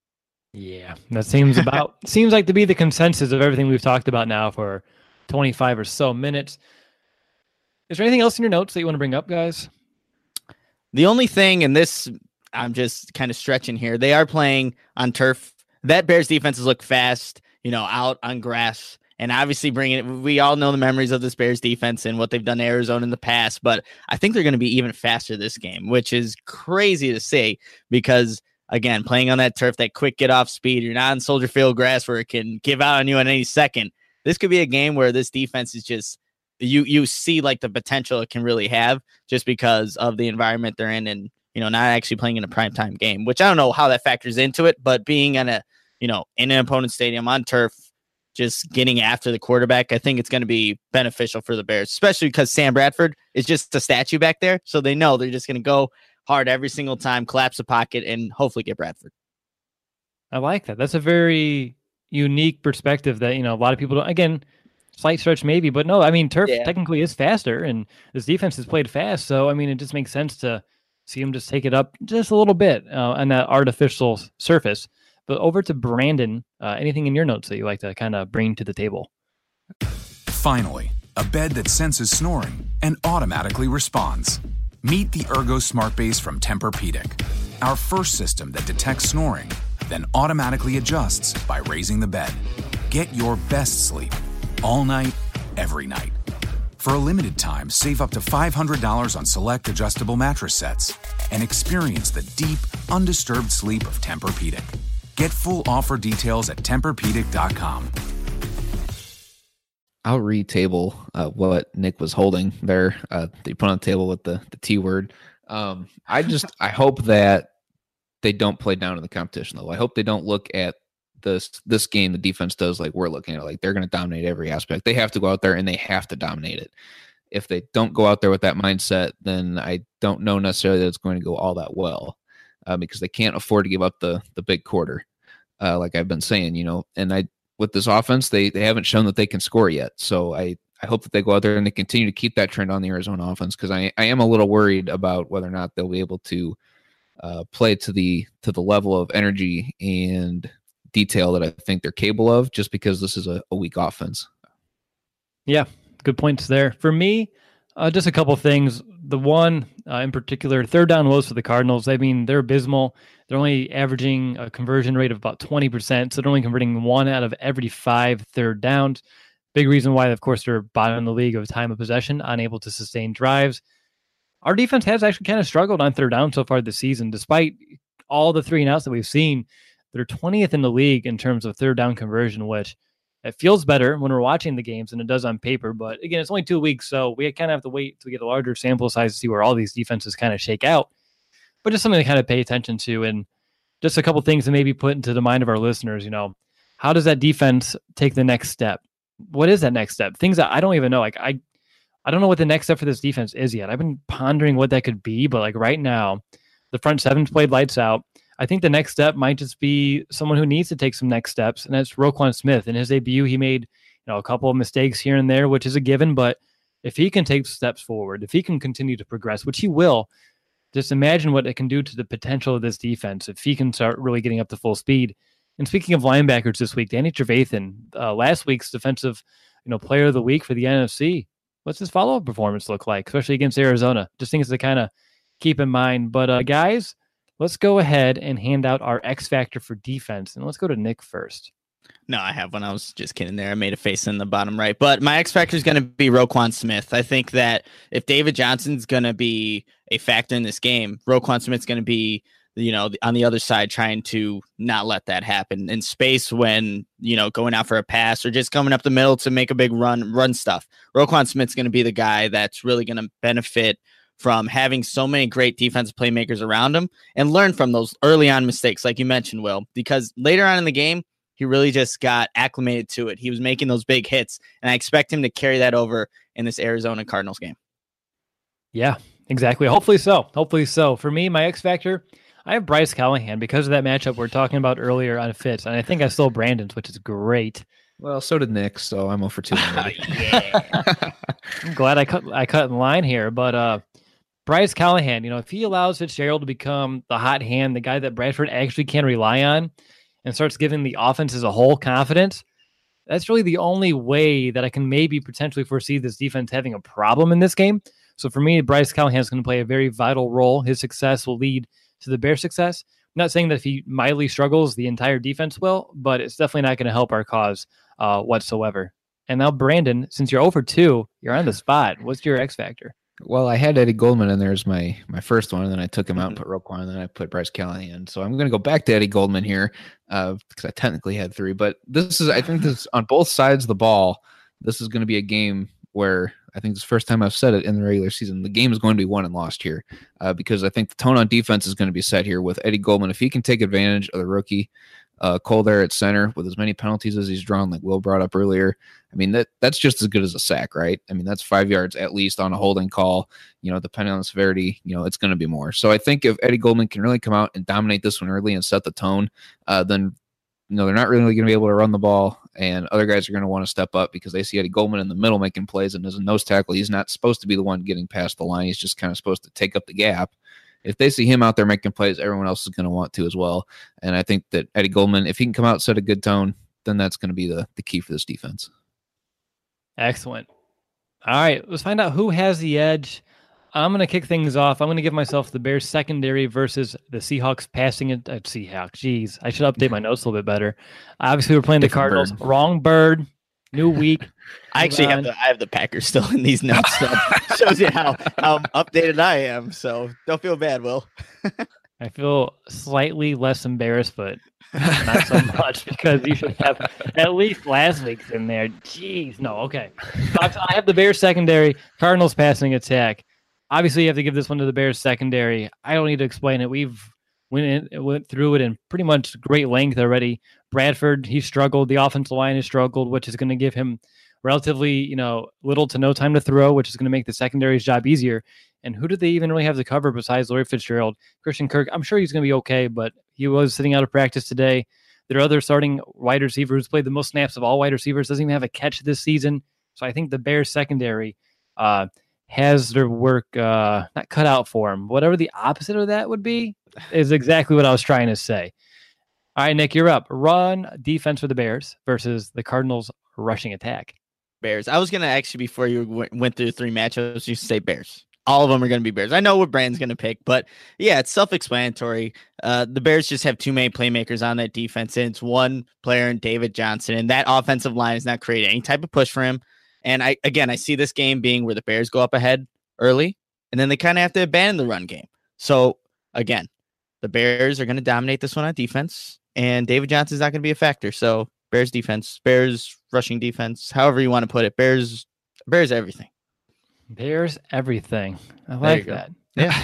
Yeah, that seems about seems like to be the consensus of everything we've talked about now for twenty-five or so minutes. Is there anything else in your notes that you want to bring up, guys? The only thing, and this I'm just kind of stretching here, they are playing on turf. That Bears defenses look fast, you know, out on grass. And obviously bringing it, we all know the memories of this Bears defense and what they've done to Arizona in the past, but I think they're going to be even faster this game, which is crazy to say because, again, playing on that turf, that quick get off speed, you're not on Soldier Field grass where it can give out on you at any second. This could be a game where this defense is just, you you see like the potential it can really have just because of the environment they're in and, you know, not actually playing in a primetime game, which I don't know how that factors into it, but being in a, you know, in an opponent's stadium on turf, just getting after the quarterback, I think it's going to be beneficial for the Bears, especially because Sam Bradford is just a statue back there. So they know they're just going to go hard every single time, collapse the pocket, and hopefully get Bradford. I like that. That's a very unique perspective that, you know, a lot of people don't, again, slight stretch maybe, but no, I mean, turf yeah. technically is faster and this defense has played fast. So, I mean, it just makes sense to see him just take it up just a little bit uh, on that artificial surface. But over to Brandon, uh, anything in your notes that you like to kind of bring to the table? Finally, a bed that senses snoring and automatically responds. Meet the Ergo Smart Base from Tempur-Pedic, our first system that detects snoring, then automatically adjusts by raising the bed. Get your best sleep all night, every night. For a limited time, save up to five hundred dollars on select adjustable mattress sets and experience the deep, undisturbed sleep of Tempur-Pedic. Get full offer details at Tempur Pedic dot com. I'll retable uh, what Nick was holding there. Uh, they put on the table with the, the T word. Um, I just, I hope that they don't play down in the competition though. I hope they don't look at this, this game, the defense does like we're looking at, like they're going to dominate every aspect. They have to go out there and they have to dominate it. If they don't go out there with that mindset, then I don't know necessarily that it's going to go all that well uh, because they can't afford to give up the, the big quarter. Uh, like I've been saying, you know, and I, with this offense, they they haven't shown that they can score yet. So I, I hope that they go out there and they continue to keep that trend on the Arizona offense because I, I am a little worried about whether or not they'll be able to uh, play to the to the level of energy and detail that I think they're capable of just because this is a, a weak offense. Yeah, good points there. For me, uh, just a couple things. The one uh, in particular, third down woes for the Cardinals. I mean, they're abysmal. They're only averaging a conversion rate of about twenty percent, so they're only converting one out of every five third downs. Big reason why, of course, they're bottom in the league of time of possession, unable to sustain drives. Our defense has actually kind of struggled on third down so far this season. Despite all the three and outs that we've seen, they're twentieth in the league in terms of third down conversion, which it feels better when we're watching the games than it does on paper. But again, it's only two weeks, so we kind of have to wait to get a larger sample size to see where all these defenses kind of shake out. But just something to kind of pay attention to, and just a couple things to maybe put into the mind of our listeners. You know, how does that defense take the next step? What is that next step? Things that I don't even know. Like I, I don't know what the next step for this defense is yet. I've been pondering what that could be, but like right now, the front seven's played lights out. I think the next step might just be someone who needs to take some next steps, and that's Roquan Smith. In his debut, he made you know a couple of mistakes here and there, which is a given. But if he can take steps forward, if he can continue to progress, which he will. Just imagine what it can do to the potential of this defense if he can start really getting up to full speed. And speaking of linebackers this week, Danny Trevathan, uh, last week's defensive, you know, player of the week for the N F C. What's his follow-up performance look like, especially against Arizona? Just things to kind of keep in mind. But uh, guys, let's go ahead and hand out our X factor for defense, and let's go to Nick first. No, I have one. I was just kidding there. I made a face in the bottom right. But my X factor is going to be Roquan Smith. I think that if David Johnson's going to be a factor in this game, Roquan Smith's going to be, you know, on the other side trying to not let that happen in space when, you know, going out for a pass or just coming up the middle to make a big run, run stuff. Roquan Smith's going to be the guy that's really going to benefit from having so many great defensive playmakers around him and learn from those early on mistakes, like you mentioned, Will, because later on in the game, he really just got acclimated to it. He was making those big hits, and I expect him to carry that over in this Arizona Cardinals game. Yeah, exactly. Hopefully so. Hopefully so. For me, my X factor, I have Bryce Callahan because of that matchup we are talking about earlier on Fitz, and I think I stole Brandon's, which is great. Well, so did Nick, so I'm over two. Yeah. I'm glad I cut I cut in line here, but uh, Bryce Callahan, you know, if he allows Fitzgerald to become the hot hand, the guy that Bradford actually can rely on, and starts giving the offense as a whole confidence, that's really the only way that I can maybe potentially foresee this defense having a problem in this game. So for me, Bryce Callahan is going to play a very vital role. His success will lead to the Bears' success. I'm not saying that if he mildly struggles, the entire defense will, but it's definitely not going to help our cause uh, whatsoever. And now, Brandon, since you're over two, you're on the spot. What's your X factor? Well, I had Eddie Goldman in there as my my first one, and then I took him out and put Roquan, and then I put Bryce Callahan. So I'm going to go back to Eddie Goldman here uh, because I technically had three. But this is, I think, this on both sides of the ball. This is going to be a game where I think it's the first time I've said it in the regular season. The game is going to be won and lost here uh, because I think the tone on defense is going to be set here with Eddie Goldman. If he can take advantage of the rookie uh, Cole there at center with as many penalties as he's drawn, like Will brought up earlier, I mean, that that's just as good as a sack, right? I mean, that's five yards at least on a holding call. You know, depending on the severity, you know, it's going to be more. So I think if Eddie Goldman can really come out and dominate this one early and set the tone, uh, then, you know, they're not really going to be able to run the ball, and other guys are going to want to step up because they see Eddie Goldman in the middle making plays, and as a nose tackle, he's not supposed to be the one getting past the line. He's just kind of supposed to take up the gap. If they see him out there making plays, everyone else is going to want to as well. And I think that Eddie Goldman, if he can come out and set a good tone, then that's going to be the, the key for this defense. Excellent. All right, let's find out who has the edge. I'm going to kick things off. I'm going to give myself the Bears secondary versus the Seahawks passing it. Uh, Seahawks, jeez. I should update my notes a little bit better. Obviously, we're playing the Different Cardinals. bird. Wrong bird. New week. I actually have the I have the Packers still in these notes. So shows you how how updated I am. So don't feel bad, Will. I feel slightly less embarrassed, but not so much because you should have at least last week's in there. Jeez, no, okay. So I have the Bears secondary, Cardinals passing attack. Obviously, you have to give this one to the Bears secondary. I don't need to explain it. We've went in, went through it in pretty much great length already. Bradford, he struggled. The offensive line has struggled, which is going to give him relatively, you know, little to no time to throw, which is going to make the secondary's job easier. And who did they even really have to cover besides Larry Fitzgerald? Christian Kirk, I'm sure he's going to be okay, but he was sitting out of practice today. Their other starting wide receiver who's played the most snaps of all wide receivers doesn't even have a catch this season. So I think the Bears secondary uh, has their work uh, not cut out for him. Whatever the opposite of that would be is exactly what I was trying to say. All right, Nick, you're up. Run defense for the Bears versus the Cardinals rushing attack. Bears. I was going to actually, before you w- went through the three matchups, you say Bears. All of them are going to be Bears. I know what Brand's going to pick, but yeah, it's self-explanatory. Uh, the Bears just have too many playmakers on that defense, and it's one player in David Johnson, and that offensive line is not creating any type of push for him. And I, again, I see this game being where the Bears go up ahead early, and then they kind of have to abandon the run game. So again, the Bears are going to dominate this one on defense, and David Johnson's not going to be a factor. So Bears defense, Bears rushing defense, however you want to put it, Bears, Bears everything. Bears everything. I like that. Yeah.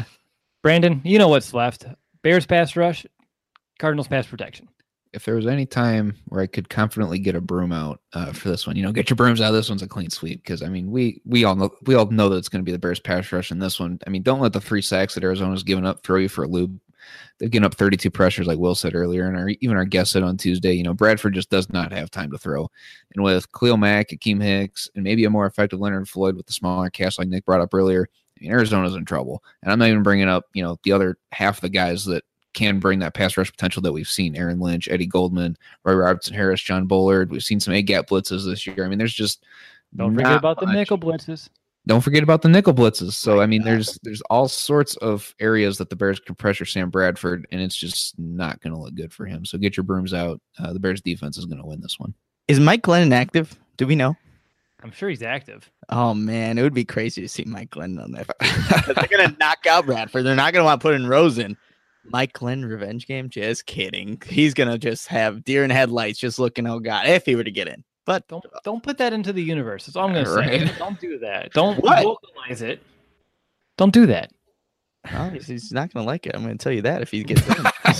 Brandon, you know what's left. Bears pass rush, Cardinals pass protection. If there was any time where I could confidently get a broom out uh, for this one, you know, get your brooms out. This one's a clean sweep because I mean, we we all know we all know that it's going to be the Bears pass rush in this one. I mean, don't let the three sacks that Arizona's given up throw you for a loop. They've given up thirty-two pressures, like Will said earlier, and our, even our guest said on Tuesday. You know, Bradford just does not have time to throw, and with Khalil Mack, Akeem Hicks, and maybe a more effective Leonard Floyd with the smaller cast, like Nick brought up earlier, I mean, Arizona's in trouble. And I'm not even bringing up, you know, the other half of the guys that can bring that pass rush potential that we've seen: Aaron Lynch, Eddie Goldman, Roy Robertson Harris, John Bullard. We've seen some A-gap blitzes this year. I mean, there's just don't forget about much. the nickel blitzes. Don't forget about the nickel blitzes. So, I mean, there's there's all sorts of areas that the Bears can pressure Sam Bradford, and it's just not going to look good for him. So get your brooms out. Uh, the Bears defense is going to win this one. Is Mike Glennon active? Do we know? I'm sure he's active. Oh, man, it would be crazy to see Mike Glennon on that. They're going to knock out Bradford. They're not going to want to put in Rosen. Mike Glenn revenge game? Just kidding. He's going to just have deer in headlights just looking, oh, God, if he were to get in. But don't don't put that into the universe. That's all I'm going to right. say. Don't do that. Don't what? vocalize it. Don't do that. Oh, he's not going to like it. I'm going to tell you that if he gets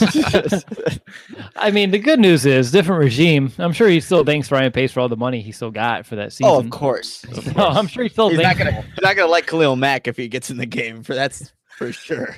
in. I mean, the good news is different regime. I'm sure he still thanks Ryan Pace for all the money he still got for that season. Oh, of course. Of course. No, I'm sure he still he's thanks. Not gonna, he's not going to like Khalil Mack if he gets in the game. For that's for sure.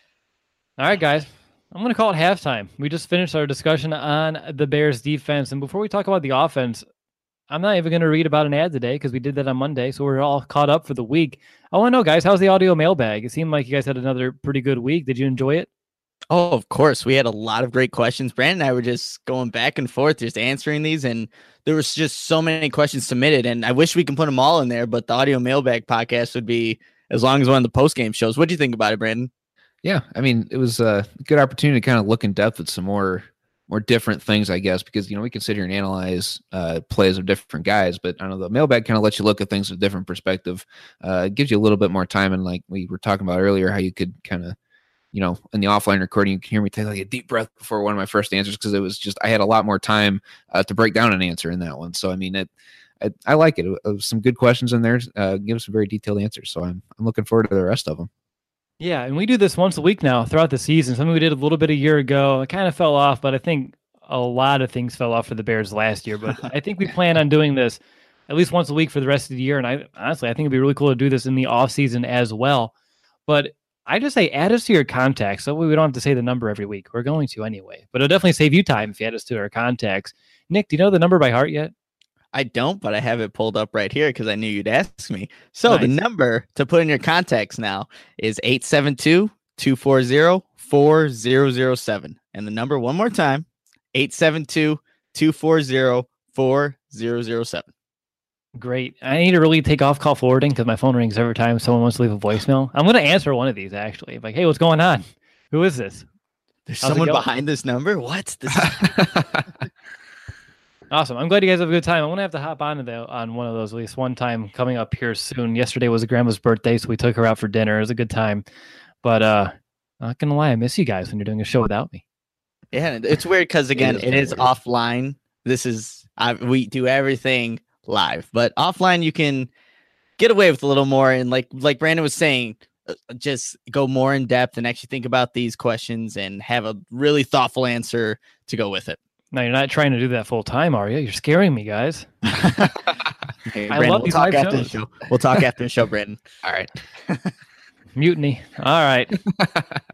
All right, guys. I'm going to call it halftime. We just finished our discussion on the Bears defense. And before we talk about the offense, I'm not even going to read about an ad today because we did that on Monday. So we're all caught up for the week. I want to know, guys, how's the audio mailbag? It seemed like you guys had another pretty good week. Did you enjoy it? Oh, of course. We had a lot of great questions. Brandon and I were just going back and forth, just answering these. And there was just so many questions submitted. And I wish we can put them all in there, but the audio mailbag podcast would be as long as one of the post game shows. What do you think about it, Brandon? Yeah, I mean, it was a good opportunity to kind of look in depth at some more more different things, I guess, because, you know, we can sit here and analyze uh, plays of different guys, but I don't know, the mailbag kind of lets you look at things with a different perspective. Uh, it gives you a little bit more time. And like we were talking about earlier, how you could kind of, you know, in the offline recording, you can hear me take like a deep breath before one of my first answers, because it was just, I had a lot more time uh, to break down an answer in that one. So, I mean, it, I, I like it. It was some good questions in there, uh, give us some very detailed answers. So I'm, I'm looking forward to the rest of them. Yeah, and we do this once a week now throughout the season. Something we did a little bit a year ago. It kind of fell off, but I think a lot of things fell off for the Bears last year. But I think we plan on doing this at least once a week for the rest of the year. And I honestly, I think it'd be really cool to do this in the off season as well. But I just say add us to your contacts. So we don't have to say the number every week. We're going to anyway. But it'll definitely save you time if you add us to our contacts. Nick, do you know the number by heart yet? I don't, but I have it pulled up right here because I knew you'd ask me. So Nice. The number to put in your contacts now is eight seven two, two four zero, four zero zero seven. And the number one more time, eight seven two, two four zero, four zero zero seven. Great. I need to really take off call forwarding because my phone rings every time someone wants to leave a voicemail. I'm going to answer one of these, actually. Like, hey, what's going on? Who is this? There's How's it someone going? behind this number? What? This Awesome. I'm glad you guys have a good time. I'm going to have to hop on, the, on one of those at least one time coming up here soon. Yesterday was grandma's birthday, so we took her out for dinner. It was a good time. But uh, not going to lie, I miss you guys when you're doing a show without me. Yeah, it's weird because, again, is it is weird. offline. This is, I, we do everything live, but offline you can get away with a little more. And like like Brandon was saying, uh, just go more in depth and actually think about these questions and have a really thoughtful answer to go with it. Now, you're not trying to do that full time, are you? You're scaring me, guys. Hey, I Brandon, love we'll these talk live after the shows. show. We'll talk after the show, Brandon. All right. Mutiny. All right. All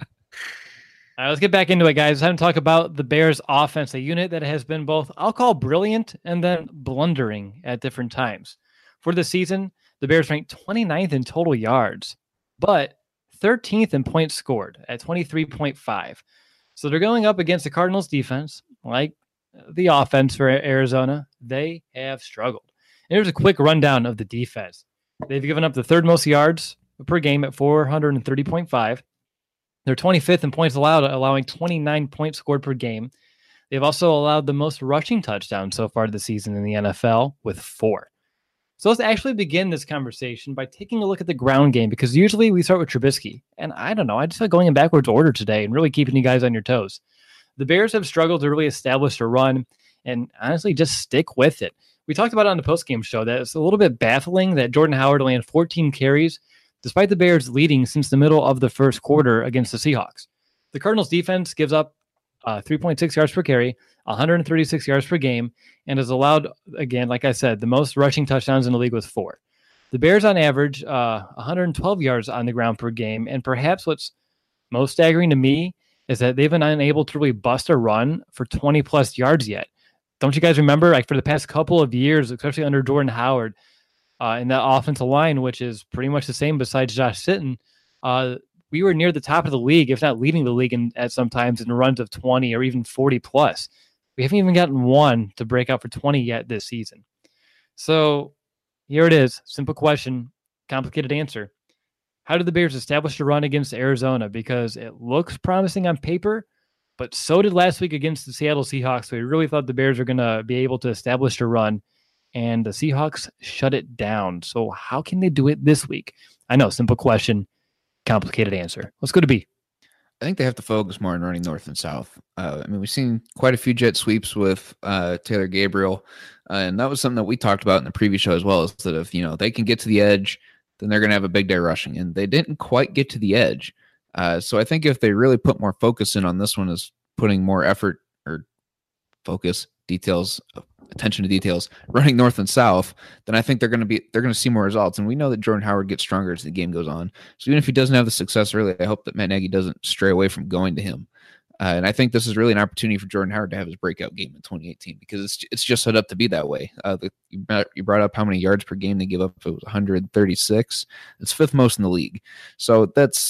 right, let's get back into it, guys. Time to talk about the Bears offense, a unit that has been both, I'll call brilliant and then blundering at different times. For the season, the Bears ranked twenty-ninth in total yards, but thirteenth in points scored at twenty-three point five. So they're going up against the Cardinals defense, like the offense for Arizona. They have struggled. And here's a quick rundown of the defense. They've given up the third most yards per game at four thirty point five. They're twenty-fifth in points allowed, allowing twenty-nine points scored per game. They've also allowed the most rushing touchdowns so far this season in the N F L with four. So let's actually begin this conversation by taking a look at the ground game, because usually we start with Trubisky. And I don't know, I just feel like going in backwards order today and really keeping you guys on your toes. The Bears have struggled to really establish a run and honestly just stick with it. We talked about it on the postgame show that it's a little bit baffling that Jordan Howard only had fourteen carries, despite the Bears leading since the middle of the first quarter against the Seahawks. The Cardinals defense gives up uh, three point six yards per carry, one thirty-six yards per game, and has allowed, again, like I said, the most rushing touchdowns in the league with four. The Bears on average, uh, one twelve yards on the ground per game, and perhaps what's most staggering to me is that they've been unable to really bust a run for twenty plus yards yet. Don't you guys remember, like for the past couple of years, especially under Jordan Howard, uh, in that offensive line, which is pretty much the same besides Josh Sitton, uh, we were near the top of the league, if not leading the league in, at sometimes in runs of twenty or even forty plus. We haven't even gotten one to break out for twenty yet this season. So here it is. Simple question, complicated answer. How did the Bears establish a run against Arizona? Because it looks promising on paper, but so did last week against the Seattle Seahawks. We really thought the Bears were going to be able to establish a run, and the Seahawks shut it down. So how can they do it this week? I know, simple question, complicated answer. Let's go to B. I think they have to focus more on running north and south. Uh, I mean, we've seen quite a few jet sweeps with uh, Taylor Gabriel, uh, and that was something that we talked about in the previous show as well, is that if, you know, they can get to the edge, then they're going to have a big day rushing, and they didn't quite get to the edge. Uh, so I think if they really put more focus in on this one, is putting more effort or focus, details, attention to details, running north and south, then I think they're going to be they're going to see more results. And we know that Jordan Howard gets stronger as the game goes on. So even if he doesn't have the success early, I hope that Matt Nagy doesn't stray away from going to him. Uh, and I think this is really an opportunity for Jordan Howard to have his breakout game in twenty eighteen, because it's it's just set up to be that way. Uh, the, you brought up how many yards per game they give up. It was one thirty-six. It's fifth most in the league. So that's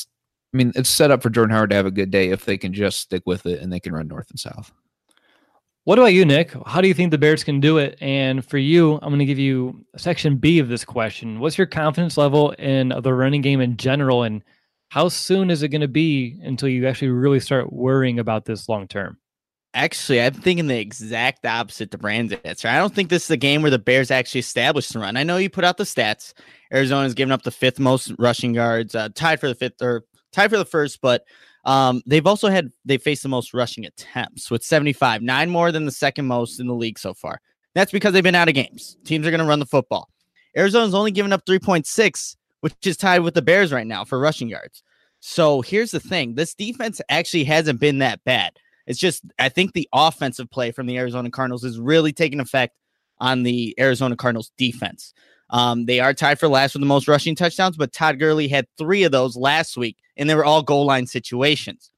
I mean, it's set up for Jordan Howard to have a good day if they can just stick with it and they can run north and south. What about you, Nick? How do you think the Bears can do it? And for you, I'm going to give you section B of this question. What's your confidence level in the running game in general, and how soon is it going to be until you actually really start worrying about this long term? Actually, I'm thinking the exact opposite to Brand's answer. I don't think this is a game where the Bears actually establish the run. I know you put out the stats. Arizona's given up the fifth most rushing yards, uh, tied for the fifth or tied for the first, but um, they've also had they faced the most rushing attempts with seventy-five, nine more than the second most in the league so far. That's because they've been out of games. Teams are going to run the football. Arizona's only given up three point six, which is tied with the Bears right now for rushing yards. So here's the thing. This defense actually hasn't been that bad. It's just, I think the offensive play from the Arizona Cardinals is really taking effect on the Arizona Cardinals defense. Um, they are tied for last with the most rushing touchdowns, but Todd Gurley had three of those last week, and they were all goal line situations.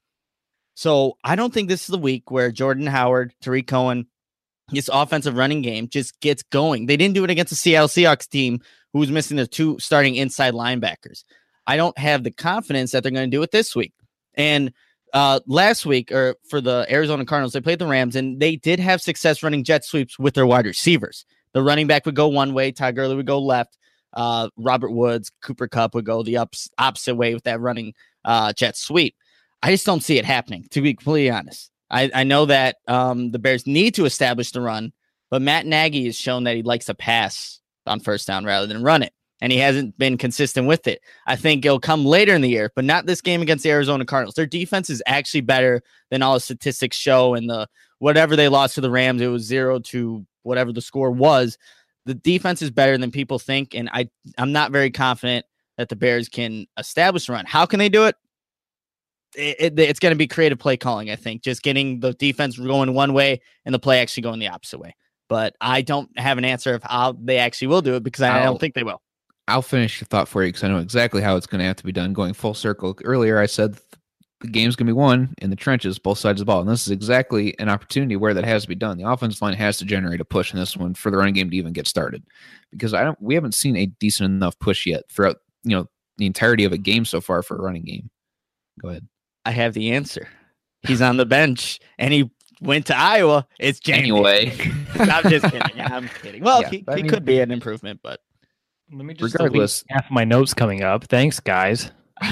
So I don't think this is the week where Jordan Howard, Tariq Cohen, this offensive running game just gets going. They didn't do it against the Seattle Seahawks team who was missing their two starting inside linebackers. I don't have the confidence that they're going to do it this week. And uh, last week, or for the Arizona Cardinals, they played the Rams, and they did have success running jet sweeps with their wide receivers. The running back would go one way, Todd Gurley would go left, uh, Robert Woods, Cooper Kupp would go the ups, opposite way with that running uh, jet sweep. I just don't see it happening, to be completely honest. I, I know that um, the Bears need to establish the run, but Matt Nagy has shown that he likes to pass on first down rather than run it, and he hasn't been consistent with it. I think it'll come later in the year, but not this game against the Arizona Cardinals. Their defense is actually better than all the statistics show, and the whatever they lost to the Rams, it was zero to whatever the score was. The defense is better than people think, and I, I'm not very confident that the Bears can establish a run. How can they do it? It, it, it's going to be creative play calling, I think, just getting the defense going one way and the play actually going the opposite way. But I don't have an answer of how they actually will do it because I I'll, don't think they will. I'll finish your thought for you because I know exactly how it's going to have to be done going full circle. Earlier, I said the game's going to be won in the trenches, both sides of the ball. And this is exactly an opportunity where that has to be done. The offensive line has to generate a push in this one for the running game to even get started, because I don't, we haven't seen a decent enough push yet throughout, you know, the entirety of a game so far for a running game. Go ahead. I have the answer. He's on the bench and he went to Iowa. It's James. Anyway. I'm just kidding. I'm kidding. Well, Yeah, he, I he mean- could be an improvement, but Let me just Regardless- delete half my notes coming up. Thanks, guys.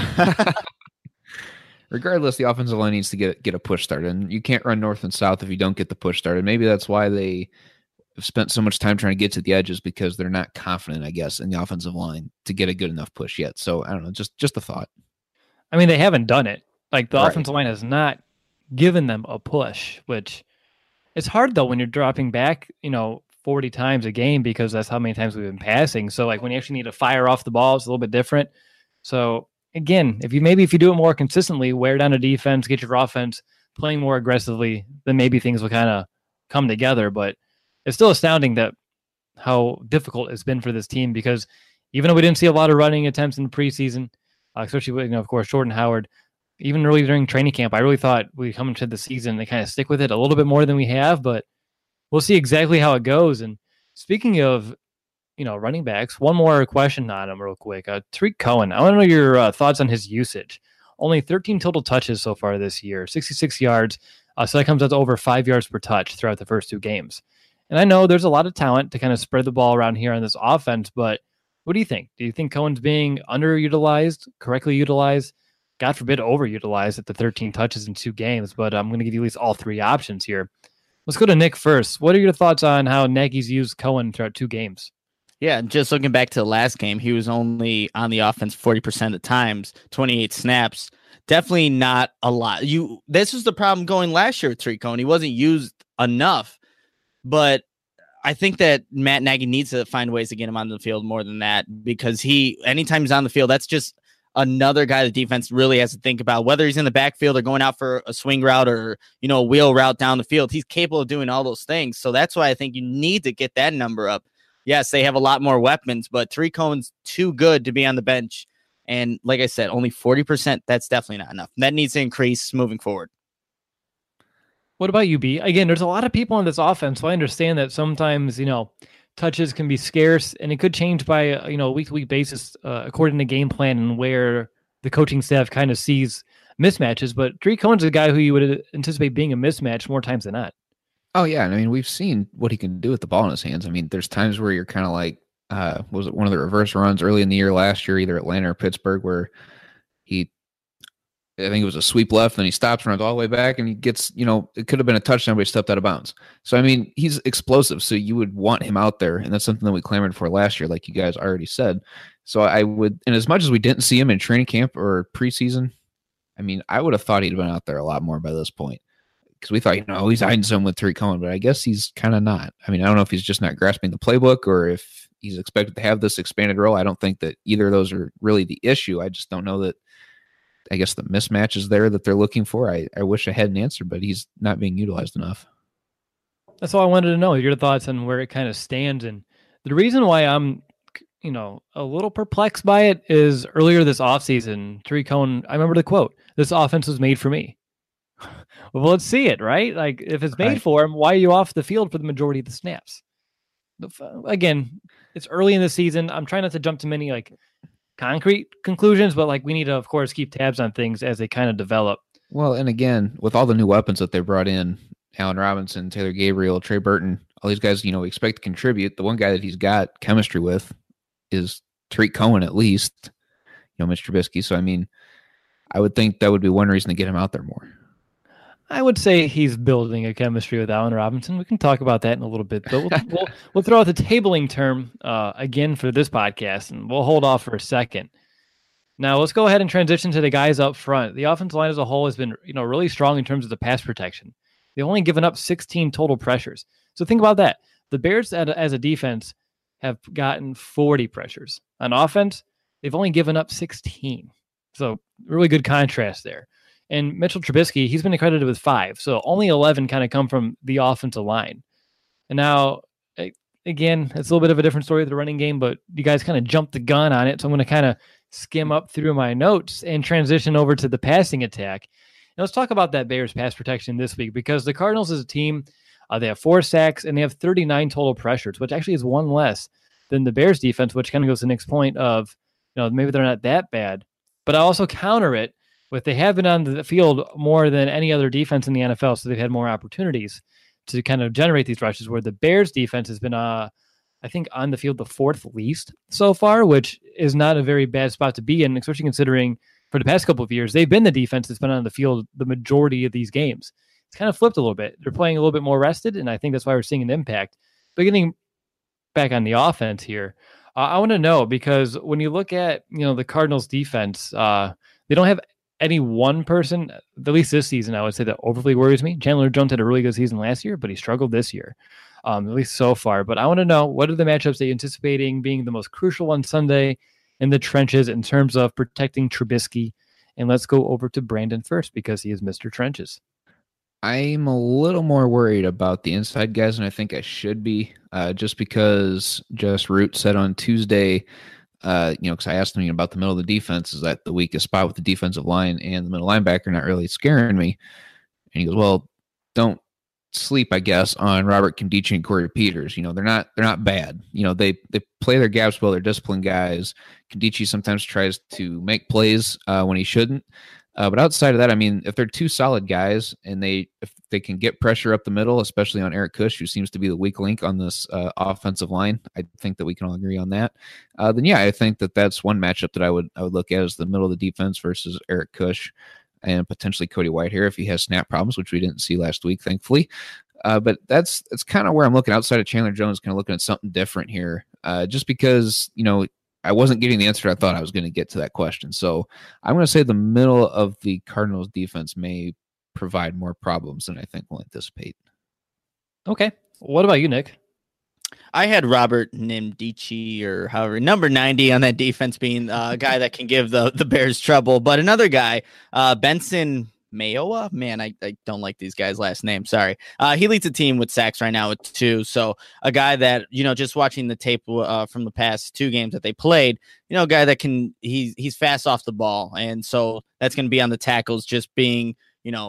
Regardless, the offensive line needs to get get a push started, and you can't run north and south if you don't get the push started. Maybe that's why they have spent so much time trying to get to the edges, because they're not confident, I guess, in the offensive line to get a good enough push yet. So I don't know, just just a thought. I mean, they haven't done it. Like the Right. offensive line has not given them a push, which it's hard though when you're dropping back, you know, forty times a game, because that's how many times we've been passing. So like when you actually need to fire off the ball, it's a little bit different. So again, if you maybe if you do it more consistently, wear down a defense, get your offense playing more aggressively, then maybe things will kind of come together. But it's still astounding that how difficult it's been for this team, because even though we didn't see a lot of running attempts in the preseason, uh, especially with, you know, of course, Jordan Howard, even really during training camp, I really thought we come into the season and kind of stick with it a little bit more than we have, but we'll see exactly how it goes. And speaking of, you know, running backs, one more question on him real quick. Uh, Tariq Cohen, I want to know your uh, thoughts on his usage. Only thirteen total touches so far this year, sixty-six yards. Uh, so that comes out to over five yards per touch throughout the first two games. And I know there's a lot of talent to kind of spread the ball around here on this offense, but what do you think? Do you think Cohen's being underutilized, correctly utilized? God forbid, overutilized at the thirteen touches in two games, but I'm going to give you at least all three options here. Let's go to Nick first. What are your thoughts on how Nagy's used Cohen throughout two games? yeah, just looking back to the last game, he was only on the offense forty percent of the times, twenty-eight snaps. Definitely not a lot. You this was the problem going last year with Tariq Cohen. He wasn't used enough, but I think that Matt Nagy needs to find ways to get him on the field more than that, because he, anytime he's on the field, that's just another guy the defense really has to think about, whether he's in the backfield or going out for a swing route or, you know, a wheel route down the field. He's capable of doing all those things. So that's why I think you need to get that number up. Yes, they have a lot more weapons, but Tariq Cohen's too good to be on the bench. And like I said, only forty percent, that's definitely not enough. That needs to increase moving forward. What about you, B? Again, there's a lot of people on this offense, so I understand that sometimes, you know, touches can be scarce, and it could change by, uh, you know, a week-to-week basis uh, according to game plan and where the coaching staff kind of sees mismatches. But Tariq Cohen's a guy who you would anticipate being a mismatch more times than not. Oh yeah, and I mean we've seen what he can do with the ball in his hands. I mean, there's times where you're kind of like, uh, was it one of the reverse runs early in the year last year, either Atlanta or Pittsburgh, where he, I think it was a sweep left, and he stops, runs all the way back, and he gets, you know, it could have been a touchdown, but he stepped out of bounds. So I mean, he's explosive, so you would want him out there, and that's something that we clamored for last year, like you guys already said. So I would, and as much as we didn't see him in training camp or preseason, I mean, I would have thought he'd been out there a lot more by this point. Because we thought, you know, he's hiding some with Tariq Cohen, but I guess he's kind of not. I mean, I don't know if he's just not grasping the playbook or if he's expected to have this expanded role. I don't think that either of those are really the issue. I just don't know that, I guess, the mismatch is there that they're looking for. I, I wish I had an answer, but he's not being utilized enough. That's all I wanted to know, your thoughts on where it kind of stands. And the reason why I'm, you know, a little perplexed by it is earlier this offseason, Tariq Cohen, I remember the quote, "This offense was made for me." Well, let's see it, right? Like, if it's made right. for him, why are you off the field for the majority of the snaps? Again, it's early in the season. I'm trying not to jump to many like concrete conclusions, but like we need to, of course, keep tabs on things as they kind of develop. Well, and again, with all the new weapons that they brought in, Allen Robinson, Taylor Gabriel, Trey Burton, all these guys, you know, we expect to contribute. The one guy that he's got chemistry with is Tariq Cohen, at least, you know, Mister Trubisky. So, I mean, I would think that would be one reason to get him out there more. I would say he's building a chemistry with Allen Robinson. We can talk about that in a little bit, but we'll we'll, we'll throw out the tabling term uh, again for this podcast, and we'll hold off for a second. Now, let's go ahead and transition to the guys up front. The offensive line as a whole has been, you know, really strong in terms of the pass protection. They've only given up sixteen total pressures. So think about that. The Bears, as a defense, have gotten forty pressures. On offense, they've only given up sixteen. So really good contrast there. And Mitchell Trubisky, he's been accredited with five. So only eleven kind of come from the offensive line. And now, again, it's a little bit of a different story with the running game, but you guys kind of jumped the gun on it. So I'm going to kind of skim up through my notes and transition over to the passing attack. And let's talk about that Bears pass protection this week, because the Cardinals as a team, uh, they have four sacks and they have thirty-nine total pressures, which actually is one less than the Bears defense, which kind of goes to the next point of, you know, maybe they're not that bad. But I also counter it with they have been on the field more than any other defense in the N F L, so they've had more opportunities to kind of generate these rushes, where the Bears defense has been, uh, I think, on the field the fourth least so far, which is not a very bad spot to be in, especially considering for the past couple of years, they've been the defense that's been on the field the majority of these games. It's kind of flipped a little bit. They're playing a little bit more rested, and I think that's why we're seeing an impact. But getting back on the offense here, uh, I want to know, because when you look at, you know, the Cardinals defense, uh, they don't have any one person, at least this season, I would say, that overly worries me. Chandler Jones had a really good season last year, but he struggled this year, um, at least so far. But I want to know, what are the matchups that you're anticipating being the most crucial on Sunday in the trenches in terms of protecting Trubisky? And let's go over to Brandon first, because he is Mister Trenches. I'm a little more worried about the inside guys than I think I should be, uh, just because Jess Root said on Tuesday, Uh, you know, because I asked him about the middle of the defense, is that the weakest spot with the defensive line and the middle linebacker not really scaring me? And he goes, well, don't sleep, I guess, on Robert Nkemdiche and Corey Peters. You know, they're not they're not bad. You know, they they play their gaps well. They're disciplined guys. Nkemdiche sometimes tries to make plays uh, when he shouldn't. Uh, but outside of that, I mean, if they're two solid guys and they if they can get pressure up the middle, especially on Eric Kush, who seems to be the weak link on this uh, offensive line, I think that we can all agree on that. Uh, then, yeah, I think that that's one matchup that I would I would look at as the middle of the defense versus Eric Kush and potentially Cody Whitehair if he has snap problems, which we didn't see last week, thankfully. Uh, but that's that's kind of where I'm looking outside of Chandler Jones, kind of looking at something different here, uh, just because, you know, I wasn't getting the answer I thought I was going to get to that question. So I'm going to say the middle of the Cardinals defense may provide more problems than I think we'll anticipate. Okay. What about you, Nick? I had Robert Nkemdiche, or however, number ninety on that defense, being a guy that can give the, the Bears trouble. But another guy, uh, Benson Mayowa, man, I, I don't like these guys' last name. Sorry. Uh, he leads the team with sacks right now with two. So a guy that, you know, just watching the tape uh, from the past two games that they played, you know, a guy that can, he's, he's fast off the ball. And so that's going to be on the tackles, just being, you know,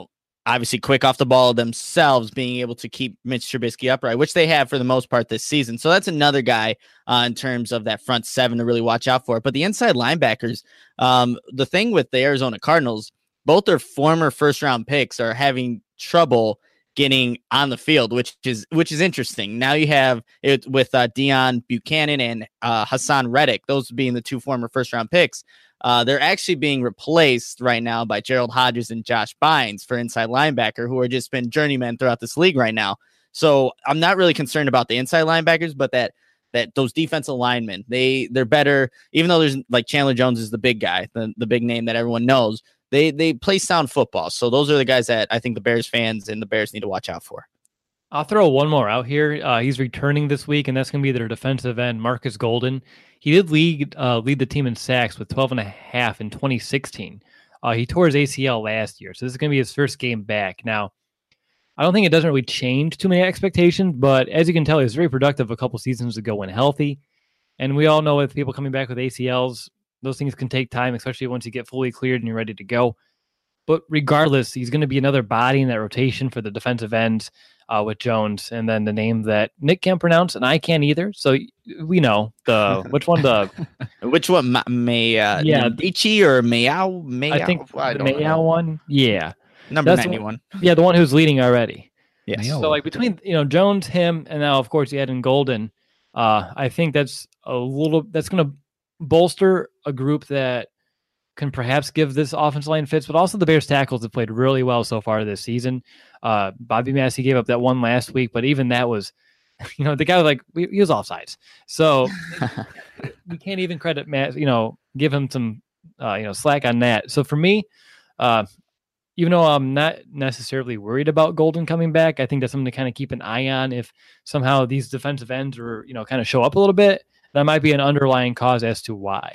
obviously quick off the ball themselves, being able to keep Mitch Trubisky upright, which they have for the most part this season. So that's another guy uh, in terms of that front seven to really watch out for. But the inside linebackers, um, the thing with the Arizona Cardinals, both their former first round picks are having trouble getting on the field, which is which is interesting. Now you have it with uh, Deion Buchanan and uh, Hassan Reddick, those being the two former first round picks. Uh, they're actually being replaced right now by Gerald Hodges and Josh Bynes for inside linebacker, who are just been journeymen throughout this league right now. So I'm not really concerned about the inside linebackers, but that that those defensive linemen, they they're better. Even though there's like Chandler Jones is the big guy, the, the big name that everyone knows. They they play sound football. So those are the guys that I think the Bears fans and the Bears need to watch out for. I'll throw one more out here. Uh, he's returning this week, and that's going to be their defensive end, Marcus Golden. He did lead uh, lead the team in sacks with twelve and a half in twenty sixteen. Uh, he tore his A C L last year, so this is going to be his first game back. Now, I don't think it doesn't really change too many expectations, but as you can tell, he was very productive a couple seasons ago when healthy. And we all know with people coming back with A C Ls, those things can take time, especially once you get fully cleared and you're ready to go. But regardless, he's going to be another body in that rotation for the defensive ends uh, with Jones, and then the name that Nick can't pronounce and I can't either. So we know the which one the which one Ma- May uh, yeah Ichi or Mayao Mayao. I think I the Mayao one. Yeah, number That's ninety-one. The one, yeah, the one who's leading already. Yes. So like between you know Jones, him, and now of course you add in Golden. Uh, I think that's a little that's going to bolster a group that can perhaps give this offensive line fits, but also the Bears tackles have played really well so far this season. Uh, Bobby Massey gave up that one last week, but even that was, you know, the guy was like, he was offsides. So we can't even credit Matt, you know, give him some, uh, you know, slack on that. So for me, uh, even though I'm not necessarily worried about Golden coming back, I think that's something to kind of keep an eye on. If somehow these defensive ends are, you know, kind of show up a little bit, that might be an underlying cause as to why.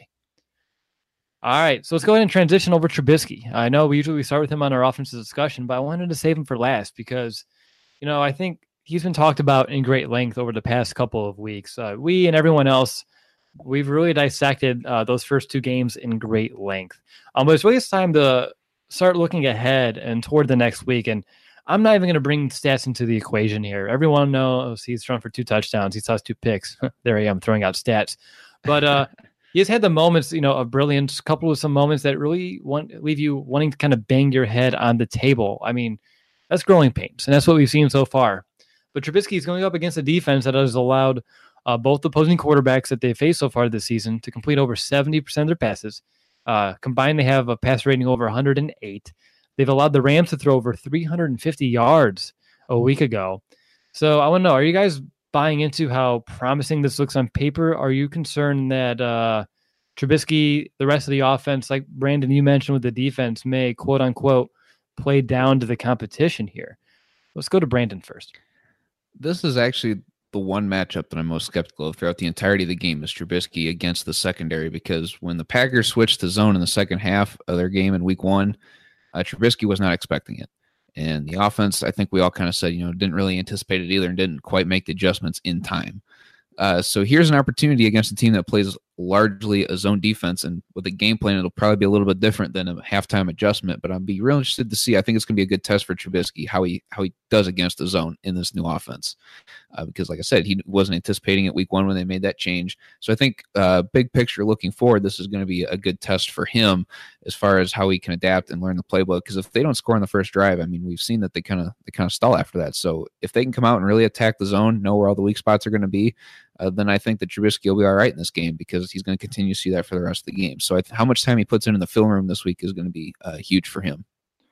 All right, so let's go ahead and transition over Trubisky. I know we usually start with him on our offensive discussion, but I wanted to save him for last because, you know, I think he's been talked about in great length over the past couple of weeks. Uh, we and everyone else, we've really dissected uh, those first two games in great length. Um, but it's really it's time to start looking ahead and toward the next week. And I'm not even going to bring stats into the equation here. Everyone knows he's thrown for two touchdowns. He tossed two picks. There I am throwing out stats. But uh, he has had the moments, you know, of brilliance, coupled with some moments that really want leave you wanting to kind of bang your head on the table. I mean, that's growing pains, and that's what we've seen so far. But Trubisky is going up against a defense that has allowed uh, both opposing quarterbacks that they faced so far this season to complete over seventy percent of their passes. Uh, combined, they have a pass rating over one hundred eight. They've allowed the Rams to throw over three hundred fifty yards a week ago. So I want to know, are you guys buying into how promising this looks on paper? Are you concerned that uh, Trubisky, the rest of the offense, like Brandon, you mentioned with the defense, may quote unquote play down to the competition here? Let's go to Brandon first. This is actually the one matchup that I'm most skeptical of throughout the entirety of the game is Trubisky against the secondary, because when the Packers switched to zone in the second half of their game in week one, uh, Trubisky was not expecting it. And the offense, I think we all kind of said, you know, didn't really anticipate it either and didn't quite make the adjustments in time. Uh, so here's an opportunity against a team that plays largely a zone defense, and with a game plan, it'll probably be a little bit different than a halftime adjustment. But I'd be real interested to see. I think it's going to be a good test for Trubisky how he how he does against the zone in this new offense, uh, because like I said, he wasn't anticipating it week one when they made that change. So I think uh, big picture looking forward, this is going to be a good test for him as far as how he can adapt and learn the playbook. Because if they don't score on the first drive, I mean, we've seen that they kind of they kind of stall after that. So if they can come out and really attack the zone, know where all the weak spots are going to be, Uh, then I think that Trubisky will be all right in this game, because he's going to continue to see that for the rest of the game. So I th- how much time he puts in in the film room this week is going to be uh, huge for him.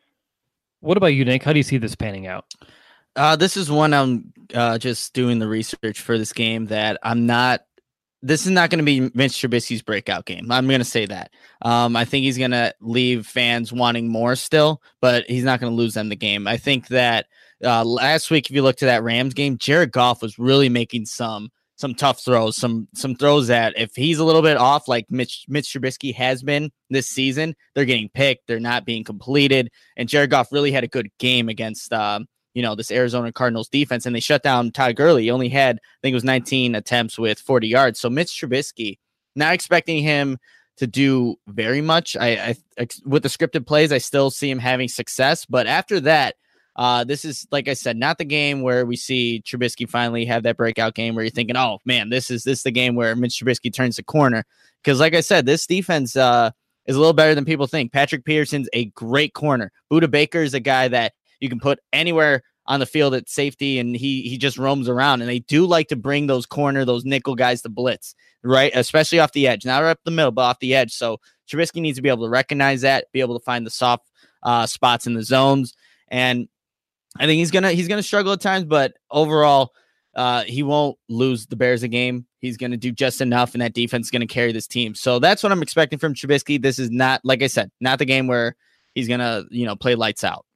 What about you, Nick? How do you see this panning out? Uh, this is one I'm uh, just doing the research for this game that I'm not. This is not going to be Mitch Trubisky's breakout game. I'm going to say that. Um, I think he's going to leave fans wanting more still, but he's not going to lose them the game. I think that uh, last week, if you look to that Rams game, Jared Goff was really making some. Some tough throws, some some throws that if he's a little bit off, like Mitch Mitch Trubisky has been this season, they're getting picked, they're not being completed. And Jared Goff really had a good game against, um, you know, this Arizona Cardinals defense, and they shut down Todd Gurley. He only had, I think it was nineteen attempts with forty yards. So Mitch Trubisky, not expecting him to do very much. I, I with the scripted plays, I still see him having success, but after that, Uh, this is, like I said, not the game where we see Trubisky finally have that breakout game where you're thinking, oh, man, this is this is the game where Mitch Trubisky turns the corner. Because, like I said, this defense uh, is a little better than people think. Patrick Peterson's a great corner. Budda Baker is a guy that you can put anywhere on the field at safety, and he he just roams around. And they do like to bring those corner, those nickel guys to blitz, right? Especially off the edge. Not right up the middle, but off the edge. So Trubisky needs to be able to recognize that, be able to find the soft uh, spots in the zones. And I think he's gonna he's gonna struggle at times, but overall, uh, he won't lose the Bears a game. He's gonna do just enough, and that defense is gonna carry this team. So that's what I'm expecting from Trubisky. This is not, like I said, not the game where he's gonna you know play lights out.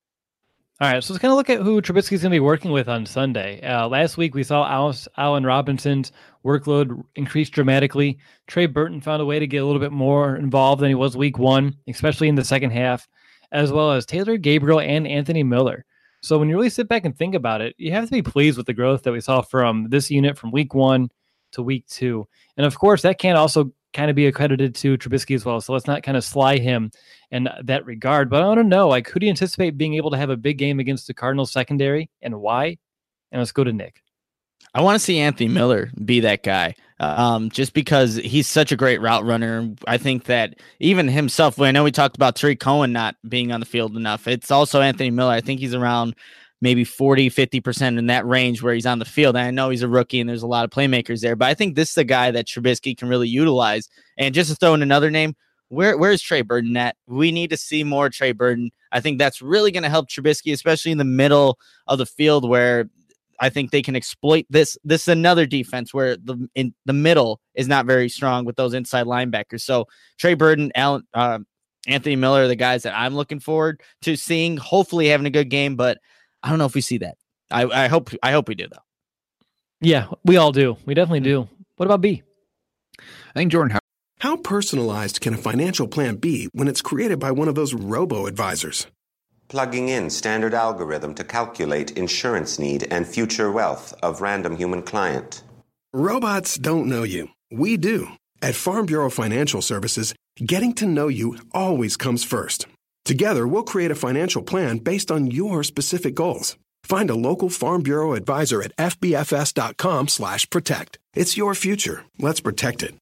All right, so let's kind of look at who Trubisky's going to be working with on Sunday. Uh, last week, we saw Alice, Allen Robinson's workload increase dramatically. Trey Burton found a way to get a little bit more involved than he was week one, especially in the second half, as well as Taylor Gabriel and Anthony Miller. So when you really sit back and think about it, you have to be pleased with the growth that we saw from this unit from week one to week two. And of course, that can also kind of be accredited to Trubisky as well. So let's not kind of sly him in that regard. But I want to know, like, who do you anticipate being able to have a big game against the Cardinals secondary and why? And let's go to Nick. I want to see Anthony Miller be that guy, um, just because he's such a great route runner. I think that even himself, I know we talked about Tariq Cohen not being on the field enough. It's also Anthony Miller. I think he's around maybe forty, fifty percent in that range where he's on the field. And I know he's a rookie and there's a lot of playmakers there, but I think this is a guy that Trubisky can really utilize. And just to throw in another name, where where's Trey Burton at? We need to see more Trey Burton. I think that's really going to help Trubisky, especially in the middle of the field where I think they can exploit this. This is another defense where the in the middle is not very strong with those inside linebackers. So Trey Burton, Allen, uh, Anthony Miller are the guys that I'm looking forward to seeing, hopefully having a good game, but I don't know if we see that. I, I hope I hope we do, though. Yeah, we all do. We definitely do. What about B? I think Jordan Howard. How personalized can a financial plan be when it's created by one of those robo-advisors? Plugging in standard algorithm to calculate insurance need and future wealth of random human client. Robots don't know you. We do. At Farm Bureau Financial Services, getting to know you always comes first. Together, we'll create a financial plan based on your specific goals. Find a local Farm Bureau advisor at fbfs.com slash protect. It's your future. Let's protect it.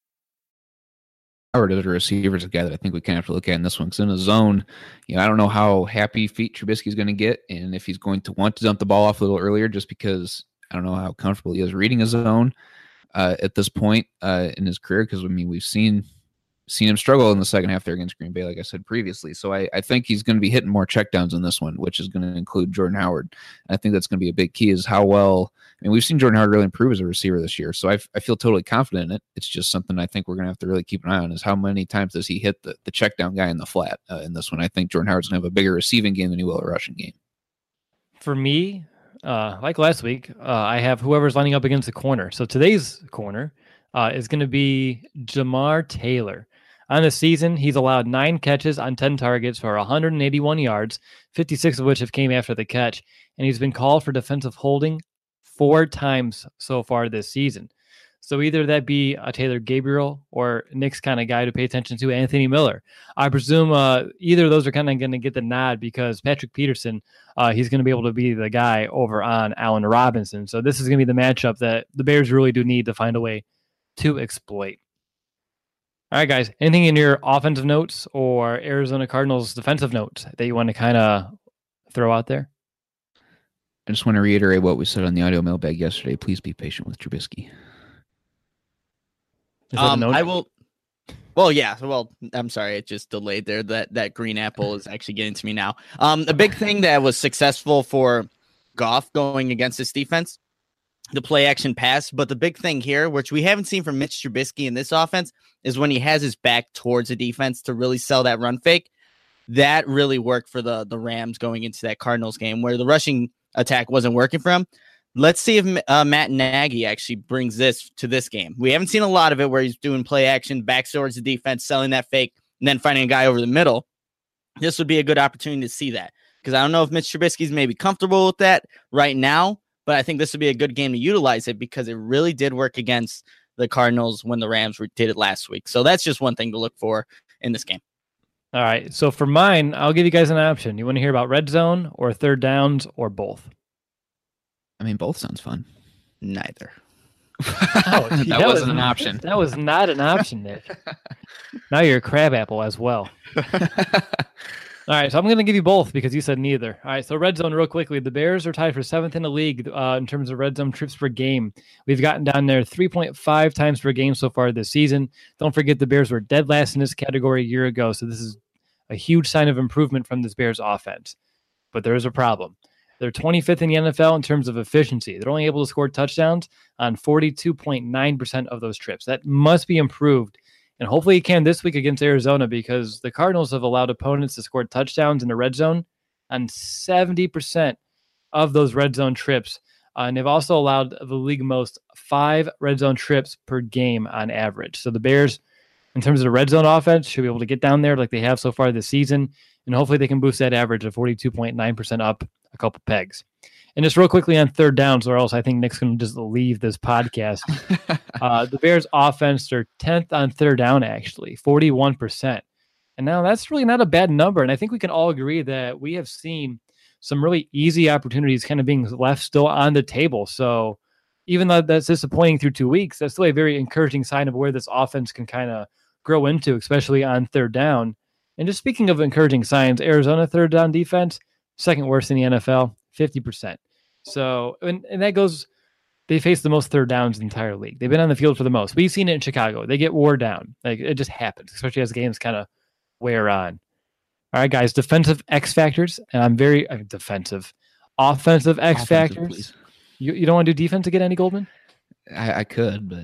Howard as a receiver is a guy that I think we kind of have to look at in this one because in a zone, you know, I don't know how happy feet Trubisky is going to get and if he's going to want to dump the ball off a little earlier just because I don't know how comfortable he is reading a zone uh, at this point uh, in his career because, I mean, we've seen seen him struggle in the second half there against Green Bay, like I said previously. So I, I think he's going to be hitting more checkdowns in this one, which is going to include Jordan Howard. And I think that's going to be a big key is how well, I mean, we've seen Jordan Howard really improve as a receiver this year. So I, I feel totally confident in it. It's just something I think we're going to have to really keep an eye on is how many times does he hit the, the check down guy in the flat uh, in this one. I think Jordan Howard's going to have a bigger receiving game than he will a rushing game. For me, uh, like last week, uh, I have whoever's lining up against the corner. So today's corner uh, is going to be Jamar Taylor. On the season, he's allowed nine catches on ten targets for one hundred eighty-one yards, fifty-six of which have came after the catch, and he's been called for defensive holding four times so far this season. So either that be a Taylor Gabriel or Nick's kind of guy to pay attention to, Anthony Miller. I presume uh, either of those are kind of going to get the nod because Patrick Peterson, uh, he's going to be able to be the guy over on Allen Robinson. So this is going to be the matchup that the Bears really do need to find a way to exploit. All right, guys, anything in your offensive notes or Arizona Cardinals defensive notes that you want to kind of throw out there? I just want to reiterate what we said on the audio mailbag yesterday. Please be patient with Trubisky. Um, I will. Well, yeah. Well, I'm sorry. It just delayed there. That that green apple is actually getting to me now. Um, the big thing that was successful for Goff going against this defense, the play action pass. But the big thing here, which we haven't seen from Mitch Trubisky in this offense, is when he has his back towards the defense to really sell that run fake. That really worked for the, the Rams going into that Cardinals game where the rushing attack wasn't working for him. Let's see if uh, Matt Nagy actually brings this to this game. We haven't seen a lot of it where he's doing play action, back towards the defense, selling that fake, and then finding a guy over the middle. This would be a good opportunity to see that because I don't know if Mitch Trubisky's maybe comfortable with that right now, but I think this would be a good game to utilize it because it really did work against the Cardinals when the Rams did it last week. So that's just one thing to look for in this game. All right. So for mine, I'll give you guys an option. You want to hear about red zone or third downs or both? I mean, both sounds fun. Neither. Oh, gee, that, that wasn't was, an option. That was not an option, Nick. Now you're a crab apple as well. All right, so I'm going to give you both because you said neither. All right, so red zone real quickly. The Bears are tied for seventh in the league uh, in terms of red zone trips per game. We've gotten down there three point five times per game so far this season. Don't forget the Bears were dead last in this category a year ago, so this is a huge sign of improvement from this Bears offense. But there is a problem. They're twenty-fifth in the N F L in terms of efficiency. They're only able to score touchdowns on forty-two point nine percent of those trips. That must be improved. And hopefully he can this week against Arizona because the Cardinals have allowed opponents to score touchdowns in the red zone on seventy percent of those red zone trips. Uh, and they've also allowed the league most five red zone trips per game on average. So the Bears, in terms of the red zone offense, should be able to get down there like they have so far this season. And hopefully they can boost that average of forty-two point nine percent up a couple pegs. And just real quickly on third downs, or else I think Nick's going to just leave this podcast. uh, the Bears offense, they're tenth on third down, actually, forty-one percent. And now that's really not a bad number. And I think we can all agree that we have seen some really easy opportunities kind of being left still on the table. So even though that's disappointing through two weeks, that's still a very encouraging sign of where this offense can kind of grow into, especially on third down. And just speaking of encouraging signs, Arizona third down defense, second worst in the N F L, fifty percent. So, and, and that goes, they face the most third downs in the entire league. They've been on the field for the most. We've seen it in Chicago. They get wore down. Like it just happens, especially as games kind of wear on. All right, guys, defensive X factors. And I'm very uh, defensive. Offensive X Offensive, factors. please. You, you don't want to do defense again, Andy Goldman? I, I could, but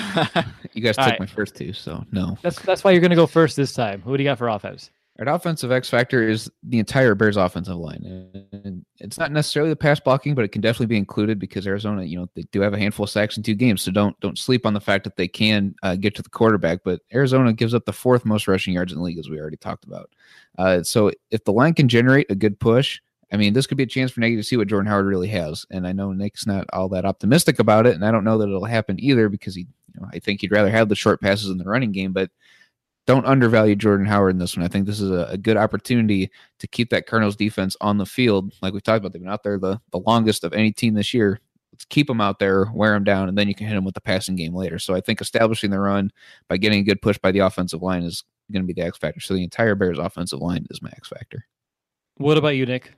you guys All took right. my first two, so no. That's that's why you're going to go first this time. Who do you got for offense? Our offensive X factor is the entire Bears offensive line. And it's not necessarily the pass blocking, but it can definitely be included because Arizona, you know, they do have a handful of sacks in two games. So don't don't sleep on the fact that they can uh, get to the quarterback. But Arizona gives up the fourth most rushing yards in the league, as we already talked about. Uh, so if the line can generate a good push, I mean, this could be a chance for Nagy to see what Jordan Howard really has. And I know Nick's not all that optimistic about it, and I don't know that it'll happen either because he, you know, I think he'd rather have the short passes in the running game, but don't undervalue Jordan Howard in this one. I think this is a, a good opportunity to keep that Cardinals defense on the field. Like we talked about, they've been out there the, the longest of any team this year. Let's keep them out there, wear them down, and then you can hit them with the passing game later. So I think establishing the run by getting a good push by the offensive line is going to be the X factor. So the entire Bears offensive line is my X factor. What about you, Nick?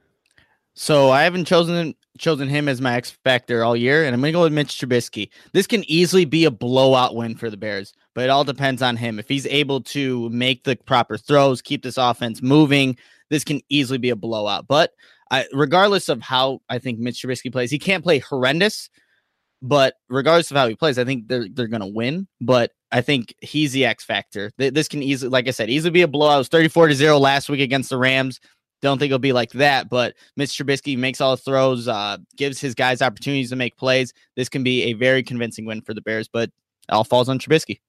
So I haven't chosen chosen him as my X factor all year, and I'm going to go with Mitch Trubisky. This can easily be a blowout win for the Bears, but it all depends on him. If he's able to make the proper throws, keep this offense moving, this can easily be a blowout. But I, regardless of how I think Mitch Trubisky plays, he can't play horrendous, but regardless of how he plays, I think they're they're going to win. But I think he's the X factor. This can easily, like I said, easily be a blowout. It was thirty-four to zero last week against the Rams. Don't think it'll be like that, but Mitch Trubisky makes all the throws, uh, gives his guys opportunities to make plays. This can be a very convincing win for the Bears, but it all falls on Trubisky.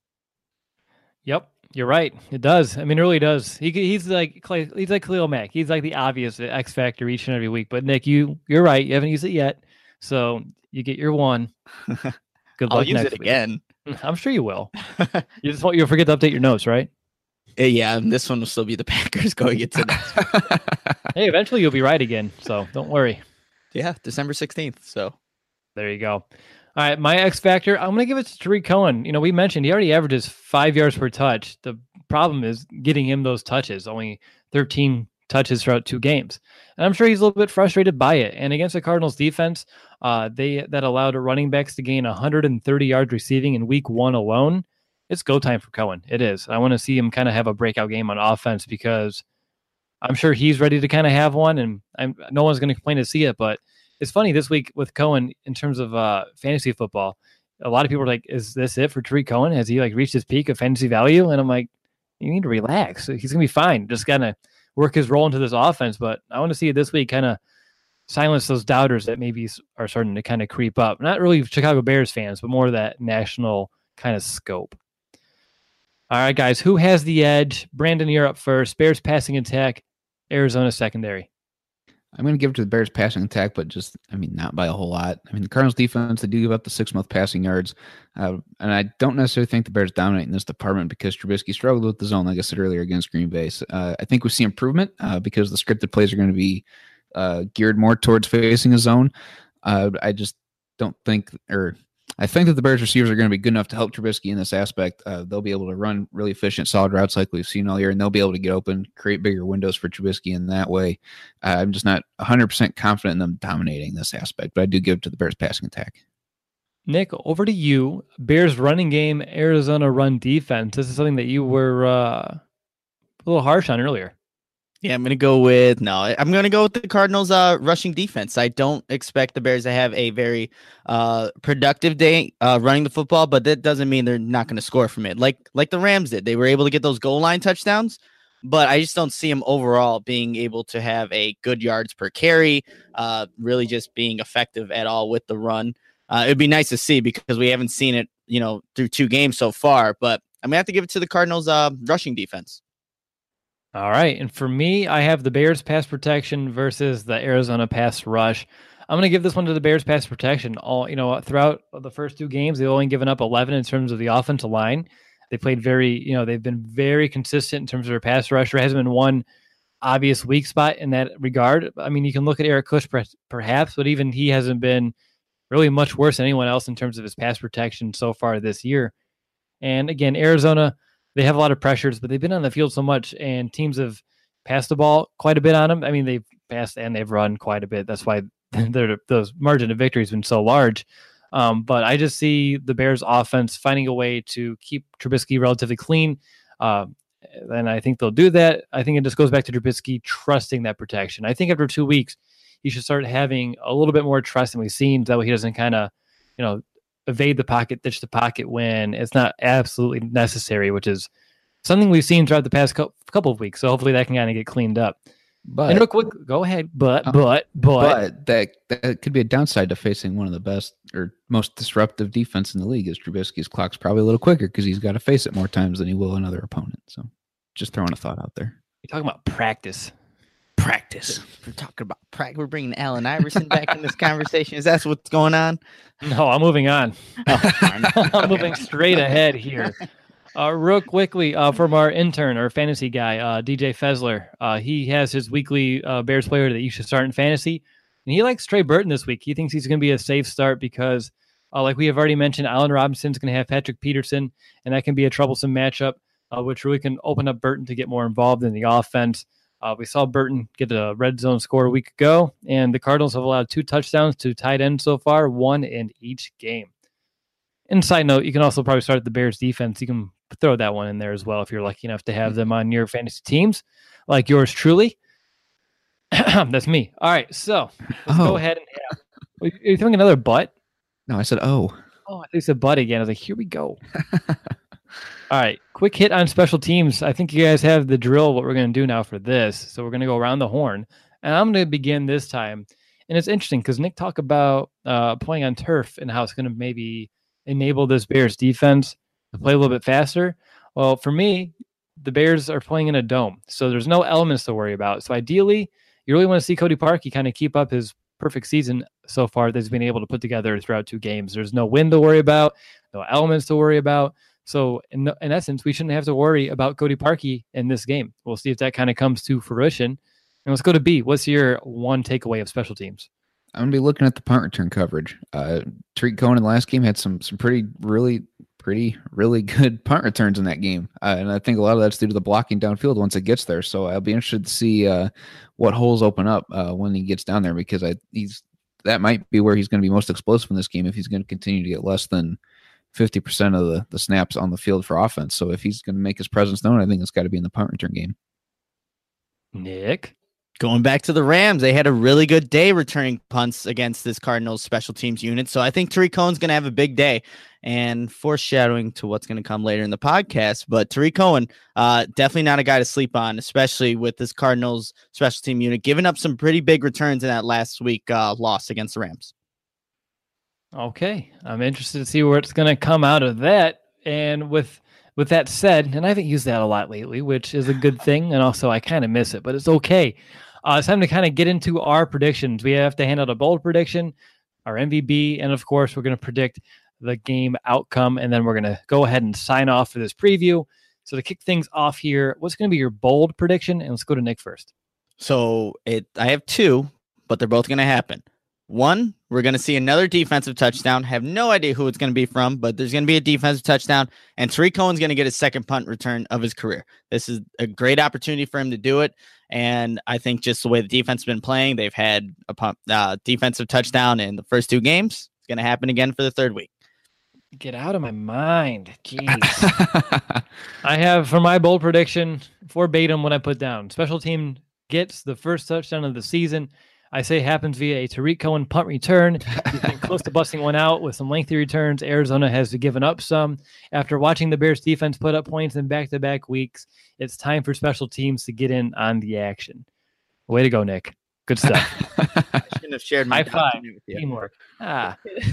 Yep, you're right. It does. I mean, it really does. He he's like Clay, he's like Khalil Mack. He's like the obvious X factor each and every week. But Nick, you you're right. You haven't used it yet, so you get your one. Good luck. I'll use next it week. again. I'm sure you will. You just won't. You'll forget to update your notes, right? Yeah, and this one will still be the Packers going into next. Hey, eventually you'll be right again, so don't worry. Yeah, December sixteenth. So there you go. All right, my X factor, I'm going to give it to Tariq Cohen. You know, we mentioned he already averages five yards per touch. The problem is getting him those touches, only thirteen touches throughout two games. And I'm sure he's a little bit frustrated by it. And against the Cardinals defense, uh, they that allowed running backs to gain one hundred thirty yards receiving in week one alone. It's go time for Cohen. It is. I want to see him kind of have a breakout game on offense because I'm sure he's ready to kind of have one, and I'm, no one's going to complain to see it. But it's funny this week with Cohen in terms of uh, fantasy football. A lot of people are like, "Is this it for Tariq Cohen? Has he like reached his peak of fantasy value?" And I'm like, "You need to relax. He's going to be fine. Just kind of work his role into this offense." But I want to see it this week kind of silence those doubters that maybe are starting to kind of creep up. Not really Chicago Bears fans, but more of that national kind of scope. All right, guys, who has the edge? Brandon, you're up first. Bears passing attack, Arizona secondary. I'm going to give it to the Bears passing attack, but just, I mean, not by a whole lot. I mean, the Cardinals defense, they do give up the six-month passing yards. Uh, and I don't necessarily think the Bears dominate in this department because Trubisky struggled with the zone, like I said earlier, against Green Bay. So, uh, I think we see improvement uh, because the scripted plays are going to be uh, geared more towards facing a zone. Uh, I just don't think, or I think that the Bears receivers are going to be good enough to help Trubisky in this aspect. Uh, they'll be able to run really efficient, solid routes like we've seen all year, and they'll be able to get open, create bigger windows for Trubisky in that way. Uh, I'm just not one hundred percent confident in them dominating this aspect, but I do give it to the Bears passing attack. Nick, over to you. Bears running game, Arizona run defense. This is something that you were uh, a little harsh on earlier. Yeah, I'm going to go with, no, I'm going to go with the Cardinals' uh, rushing defense. I don't expect the Bears to have a very uh, productive day uh, running the football, but that doesn't mean they're not going to score from it. Like like the Rams did. They were able to get those goal line touchdowns, but I just don't see them overall being able to have a good yards per carry, uh, really just being effective at all with the run. Uh, it'd be nice to see because we haven't seen it, you know, through two games so far, but I'm going to have to give it to the Cardinals' uh, rushing defense. All right. And for me, I have the Bears pass protection versus the Arizona pass rush. I'm going to give this one to the Bears pass protection. All, you know, throughout the first two games, they've only given up eleven in terms of the offensive line. They played very, you know, they've been very consistent in terms of their pass rush. There hasn't been one obvious weak spot in that regard. I mean, you can look at Eric Kush perhaps, but even he hasn't been really much worse than anyone else in terms of his pass protection so far this year. And again, Arizona, they have a lot of pressures, but they've been on the field so much, and teams have passed the ball quite a bit on them. I mean, they've passed and they've run quite a bit. That's why those margin of victory has been so large. Um, but I just see the Bears offense finding a way to keep Trubisky relatively clean. Uh, and I think they'll do that. I think it just goes back to Trubisky trusting that protection. I think after two weeks, he should start having a little bit more trust than we've seen. That way he doesn't kind of, you know, evade the pocket, ditch the pocket when it's not absolutely necessary, which is something we've seen throughout the past couple of weeks. So hopefully that can kind of get cleaned up. But and real quick, go ahead. But, uh, but, but, but that, that could be a downside to facing one of the best or most disruptive defense in the league is Trubisky's clock's probably a little quicker because he's got to face it more times than he will another opponent. So just throwing a thought out there. You're talking about practice. Practice. We're talking about practice. We're bringing Allen Iverson back in this conversation. Is that what's going on? No, I'm moving on. Oh, I'm moving straight ahead here. Uh, real quickly, uh, from our intern, our fantasy guy, uh, D J Fezler. Uh, he has his weekly uh, Bears player that you should start in fantasy. And he likes Trey Burton this week. He thinks he's going to be a safe start because, uh, like we have already mentioned, Allen Robinson's going to have Patrick Peterson, and that can be a troublesome matchup, uh, which really can open up Burton to get more involved in the offense. Uh, we saw Burton get a red zone score a week ago, and the Cardinals have allowed two touchdowns to tight end so far, one in each game. And side note, you can also probably start the Bears defense. You can throw that one in there as well if you're lucky enough to have them on your fantasy teams, like yours truly. That's me. All right, so let's oh. go ahead and have. Are you throwing another butt? No, I said, oh. Oh, I think it's a butt again. I was like, here we go. All right, quick hit on special teams. I think you guys have the drill what we're going to do now for this. So we're going to go around the horn, and I'm going to begin this time. And it's interesting because Nick talked about uh, playing on turf and how it's going to maybe enable this Bears defense to play a little bit faster. Well, for me, the Bears are playing in a dome, so there's no elements to worry about. So ideally, you really want to see Cody Parkey kind of keep up his perfect season so far that he's been able to put together throughout two games. There's no wind to worry about, no elements to worry about. So in, in essence, we shouldn't have to worry about Cody Parkey in this game. We'll see if that kind of comes to fruition. And let's go to B. What's your one takeaway of special teams? I'm going to be looking at the punt return coverage. Uh, Tariq Cohen in the last game had some some pretty, really, pretty, really good punt returns in that game. Uh, and I think a lot of that's due to the blocking downfield once it gets there. So I'll be interested to see uh, what holes open up uh, when he gets down there because I he's that might be where he's going to be most explosive in this game if he's going to continue to get less than fifty percent of the, the snaps on the field for offense. So if he's going to make his presence known, I think it's got to be in the punt return game. Nick? Going back to the Rams, they had a really good day returning punts against this Cardinals special teams unit. So I think Tariq Cohen's going to have a big day, and foreshadowing to what's going to come later in the podcast. But Tariq Cohen, uh, definitely not a guy to sleep on, especially with this Cardinals special team unit, giving up some pretty big returns in that last week uh, loss against the Rams. Okay. I'm interested to see where it's going to come out of that. And with with that said, and I haven't used that a lot lately, which is a good thing. And also I kind of miss it, but it's okay. Uh, it's time to kind of get into our predictions. We have to hand out a bold prediction, our M V B, and of course, we're going to predict the game outcome, and then we're going to go ahead and sign off for this preview. So to kick things off here, what's going to be your bold prediction? And let's go to Nick first. So it, I have two, but they're both going to happen. One, we're going to see another defensive touchdown. Have no idea who it's going to be from, but there's going to be a defensive touchdown, and Tariq Cohen's going to get his second punt return of his career. This is a great opportunity for him to do it, and I think just the way the defense has been playing, they've had a punt, uh, defensive touchdown in the first two games. It's going to happen again for the third week. Get out of my mind. Jeez. I have, for my bold prediction, verbatim what I put down. Special team gets the first touchdown of the season. I say happens via a Tariq Cohen punt return. He's been close to busting one out with some lengthy returns. Arizona has given up some. After watching the Bears defense put up points in back-to-back weeks, it's time for special teams to get in on the action. Way to go, Nick. Good stuff. I shouldn't have shared my high five. with you. Teamwork. Ah.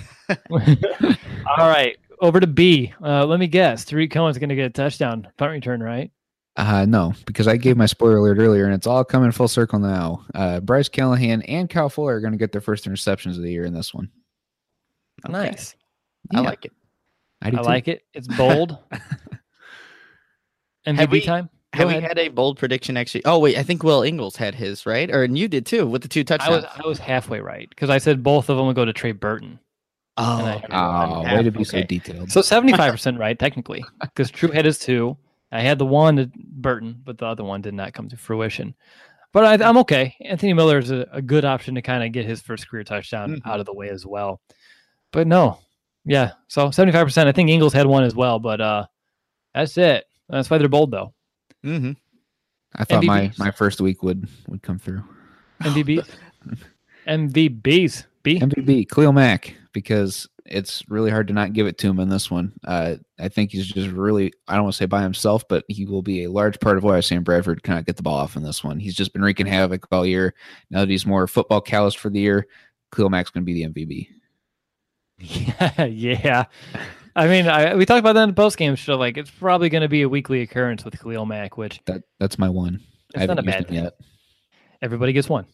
All right. Over to B. Uh, let me guess. Tariq Cohen's going to get a touchdown punt return, right? Uh, no, because I gave my spoiler alert earlier, and it's all coming full circle now. Uh, Bryce Callahan and Kyle Fuller are going to get their first interceptions of the year in this one. Okay. Nice. I Yeah. like it. I, do I too. like it. It's bold. M V Have B we- time. Go Have we ahead. had a bold prediction actually? Oh, wait, I think Will Ingles had his, right? Or and you did too with the two I touchdowns. was I was halfway right because I said both of them would go to Trey Burton. oh, and I- okay. Oh, Half, way to be so okay. detailed. So seventy-five percent right, technically, because True had his two. I had the one to Burton, but the other one did not come to fruition. But I, I'm okay. Anthony Miller is a, a good option to kind of get his first career touchdown Mhm. out of the way as well. But no, yeah. So seventy-five percent. I think Ingles had one as well, but uh, that's it. That's why they're bold, though. Mm-hmm. I thought my, M V Bs. my first week would would come through. M V Bs. M V Bs. B. M V B, Khalil Mack, because it's really hard to not give it to him in this one. Uh, I think he's just really, I don't want to say by himself, but he will be a large part of why Sam Bradford cannot get the ball off in this one. He's just been wreaking havoc all year. Now that he's more football callous for the year, Khalil Mack's going to be the M V B. Yeah, yeah. I mean, I, we talked about that in the postgame show. Like, it's probably going to be a weekly occurrence with Khalil Mack, which That That's my one. I it's not haven't a used bad him thing. yet. Everybody gets one.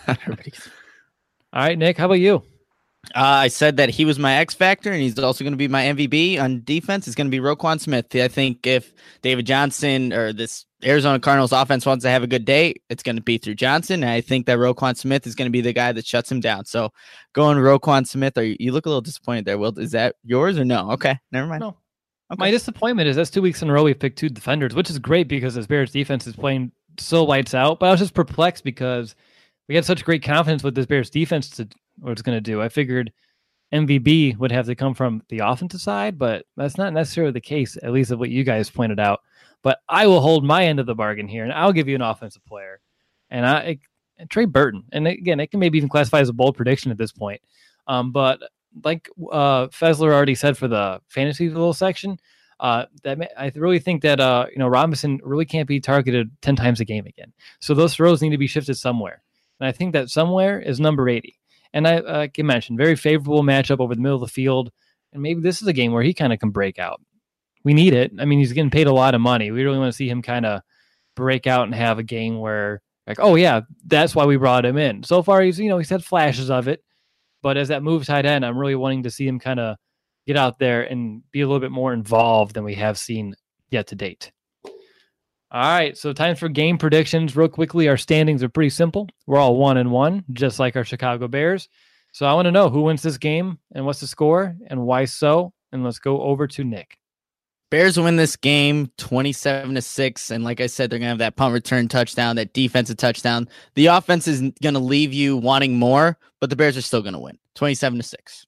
All right, Nick, how about you? Uh, I said that he was my X factor, and he's also going to be my M V B on defense. It's going to be Roquan Smith. I think if David Johnson or this Arizona Cardinals offense wants to have a good day, it's going to be through Johnson. And I think that Roquan Smith is going to be the guy that shuts him down. So going Roquan Smith, are you, you look a little disappointed there, Will? Is that yours or no? Okay, never mind. No. Okay. My disappointment is that's two weeks in a row we've picked two defenders, which is great because this Bears defense is playing so lights out. But I was just perplexed because we had such great confidence with this Bears defense to what it's going to do. I figured M V B would have to come from the offensive side, but that's not necessarily the case, at least of what you guys pointed out. But I will hold my end of the bargain here, and I'll give you an offensive player. And I and Trey Burton. And again, it can maybe even classify as a bold prediction at this point. Um, but like uh, Fessler already said for the fantasy little section, uh, that may, I really think that uh, you know Robinson really can't be targeted ten times a game again. So those throws need to be shifted somewhere. And I think that somewhere is number eighty. And I, uh, like you mentioned, very favorable matchup over the middle of the field. And maybe this is a game where he kind of can break out. We need it. I mean, he's getting paid a lot of money. We really want to see him kind of break out and have a game where, like, oh, yeah, that's why we brought him in. So far, he's, you know, he's had flashes of it. But as that move tight end, I'm really wanting to see him kind of get out there and be a little bit more involved than we have seen yet to date. All right, so time for game predictions. Real quickly, our standings are pretty simple. We're all one and one, just like our Chicago Bears. So I want to know who wins this game and what's the score and why so. And let's go over to Nick. Bears win this game twenty-seven to six. And like I said, they're going to have that punt return touchdown, that defensive touchdown. The offense is going to leave you wanting more, but the Bears are still going to win twenty-seven to six.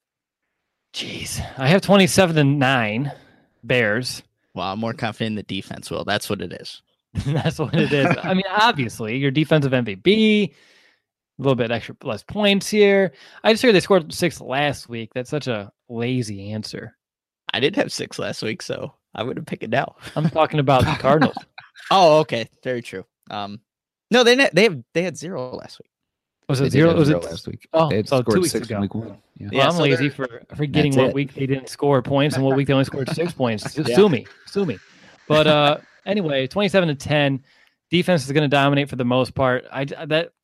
Jeez, I have twenty-seven to nine Bears. Wow, I'm more confident in the defense, Will. That's what it is. That's what it is. I mean, obviously, your defensive M V P, a little bit extra less points here. I just heard they scored six last week. That's such a lazy answer. I did have six last week, so I would have picked it now. I'm talking about the Cardinals. Oh, okay. Very true. Um, no, they ne- they have they had zero last week. Was They it did zero? have Was zero it last week. Oh, They had so scored two weeks six in ago. week one. Yeah. Well, Yeah, I'm so lazy they're- for forgetting That's what it. week they didn't score points and what week they only scored six points. Just Sue me, sue me. But uh, anyway, twenty-seven to ten, defense is going to dominate for the most part. I that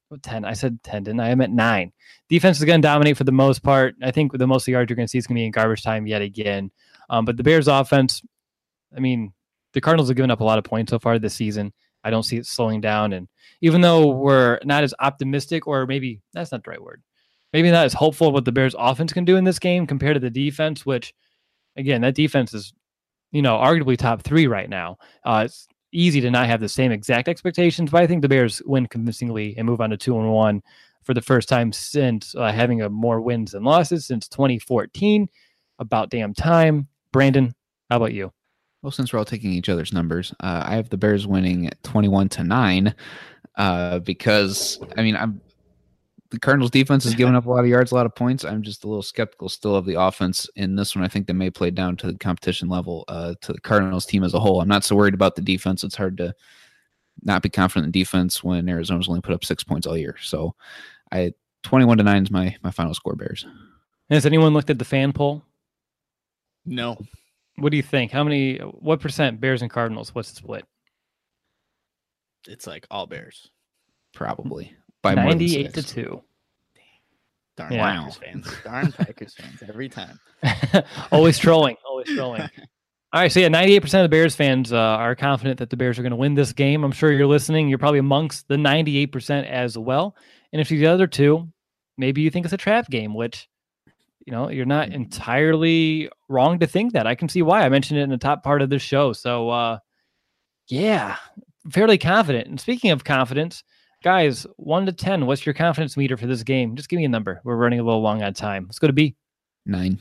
ten. I said ten, didn't I? I meant nine. Defense is going to dominate for the most part. I think the most of the yards you're going to see is going to be in garbage time yet again. Um, but the Bears offense, I mean, the Cardinals have given up a lot of points so far this season. I don't see it slowing down. And even though we're not as optimistic, or maybe that's not the right word, maybe not as hopeful what the Bears offense can do in this game compared to the defense, which, again, that defense is, you know, arguably top three right now. Uh, it's easy to not have the same exact expectations, but I think the Bears win convincingly and move on to two and one for the first time since uh, having a more wins than losses since twenty fourteen. About damn time. Brandon, how about you? Well, since we're all taking each other's numbers, uh, I have the Bears winning twenty-one to nine uh, because, I mean, I'm the Cardinals defense has given up a lot of yards, a lot of points. I'm just a little skeptical still of the offense in this one. I think they may play down to the competition level uh, to the Cardinals team as a whole. I'm not so worried about the defense. It's hard to not be confident in defense when Arizona's only put up six points all year. So I twenty-one to nine is my, my final score, Bears. Has anyone looked at the fan poll? No. What do you think? How many, what percent Bears and Cardinals? What's the split? It's like all Bears. Probably. By more than ninety-eight to six. two. Darn Yeah. Packers fans. Darn Packers fans every time. Always trolling. Always trolling. All right. So, yeah, ninety-eight percent of the Bears fans uh, are confident that the Bears are going to win this game. I'm sure you're listening. You're probably amongst the ninety-eight percent as well. And if you're the other two, maybe you think it's a trap game, which, you know, you're not entirely wrong to think that. I can see why. I mentioned it in the top part of this show. So, uh, yeah, fairly confident. And speaking of confidence, guys, one to ten, what's your confidence meter for this game? Just give me a number. We're running a little long on time. Let's go to B. Nine.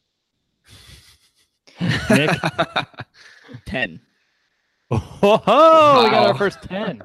Nick? ten. Oh, wow. We got Wow. our first ten.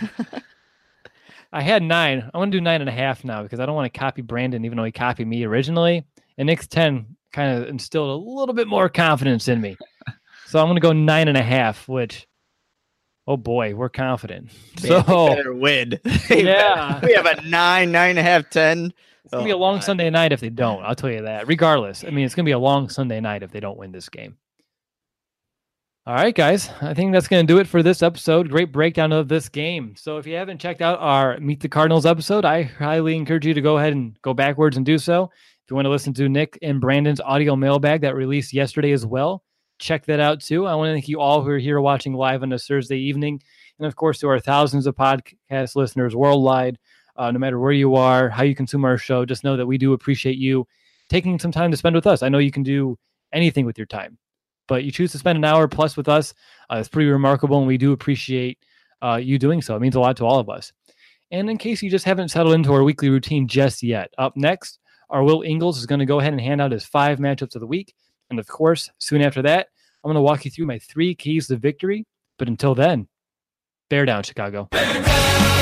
I had nine. I'm going to do nine and a half now because I don't want to copy Brandon, even though he copied me originally. And Nick's ten kind of instilled a little bit more confidence in me. So I'm going to go nine and a half, which, oh boy, we're confident. Man, so they better win. Yeah. We have a nine, nine and a half, ten. it's going to be a long Sunday night if they don't. I'll tell you that. Regardless, I mean, it's going to be a long Sunday night if they don't win this game. All right, guys. I think that's going to do it for this episode. Great breakdown of this game. So if you haven't checked out our Meet the Cardinals episode, I highly encourage you to go ahead and go backwards and do so. If you want to listen to Nick and Brandon's audio mailbag that released yesterday as well, check that out too. I want to thank you all who are here watching live on this Thursday evening. And of course, to our thousands of podcast listeners worldwide, uh, no matter where you are, how you consume our show, just know that we do appreciate you taking some time to spend with us. I know you can do anything with your time, but you choose to spend an hour plus with us. Uh, it's pretty remarkable, and we do appreciate uh, you doing so. It means a lot to all of us. And in case you just haven't settled into our weekly routine just yet, up next, our Will Ingles is going to go ahead and hand out his five matchups of the week. And of course, soon after that, I'm going to walk you through my three keys to victory. But until then, bear down, Chicago.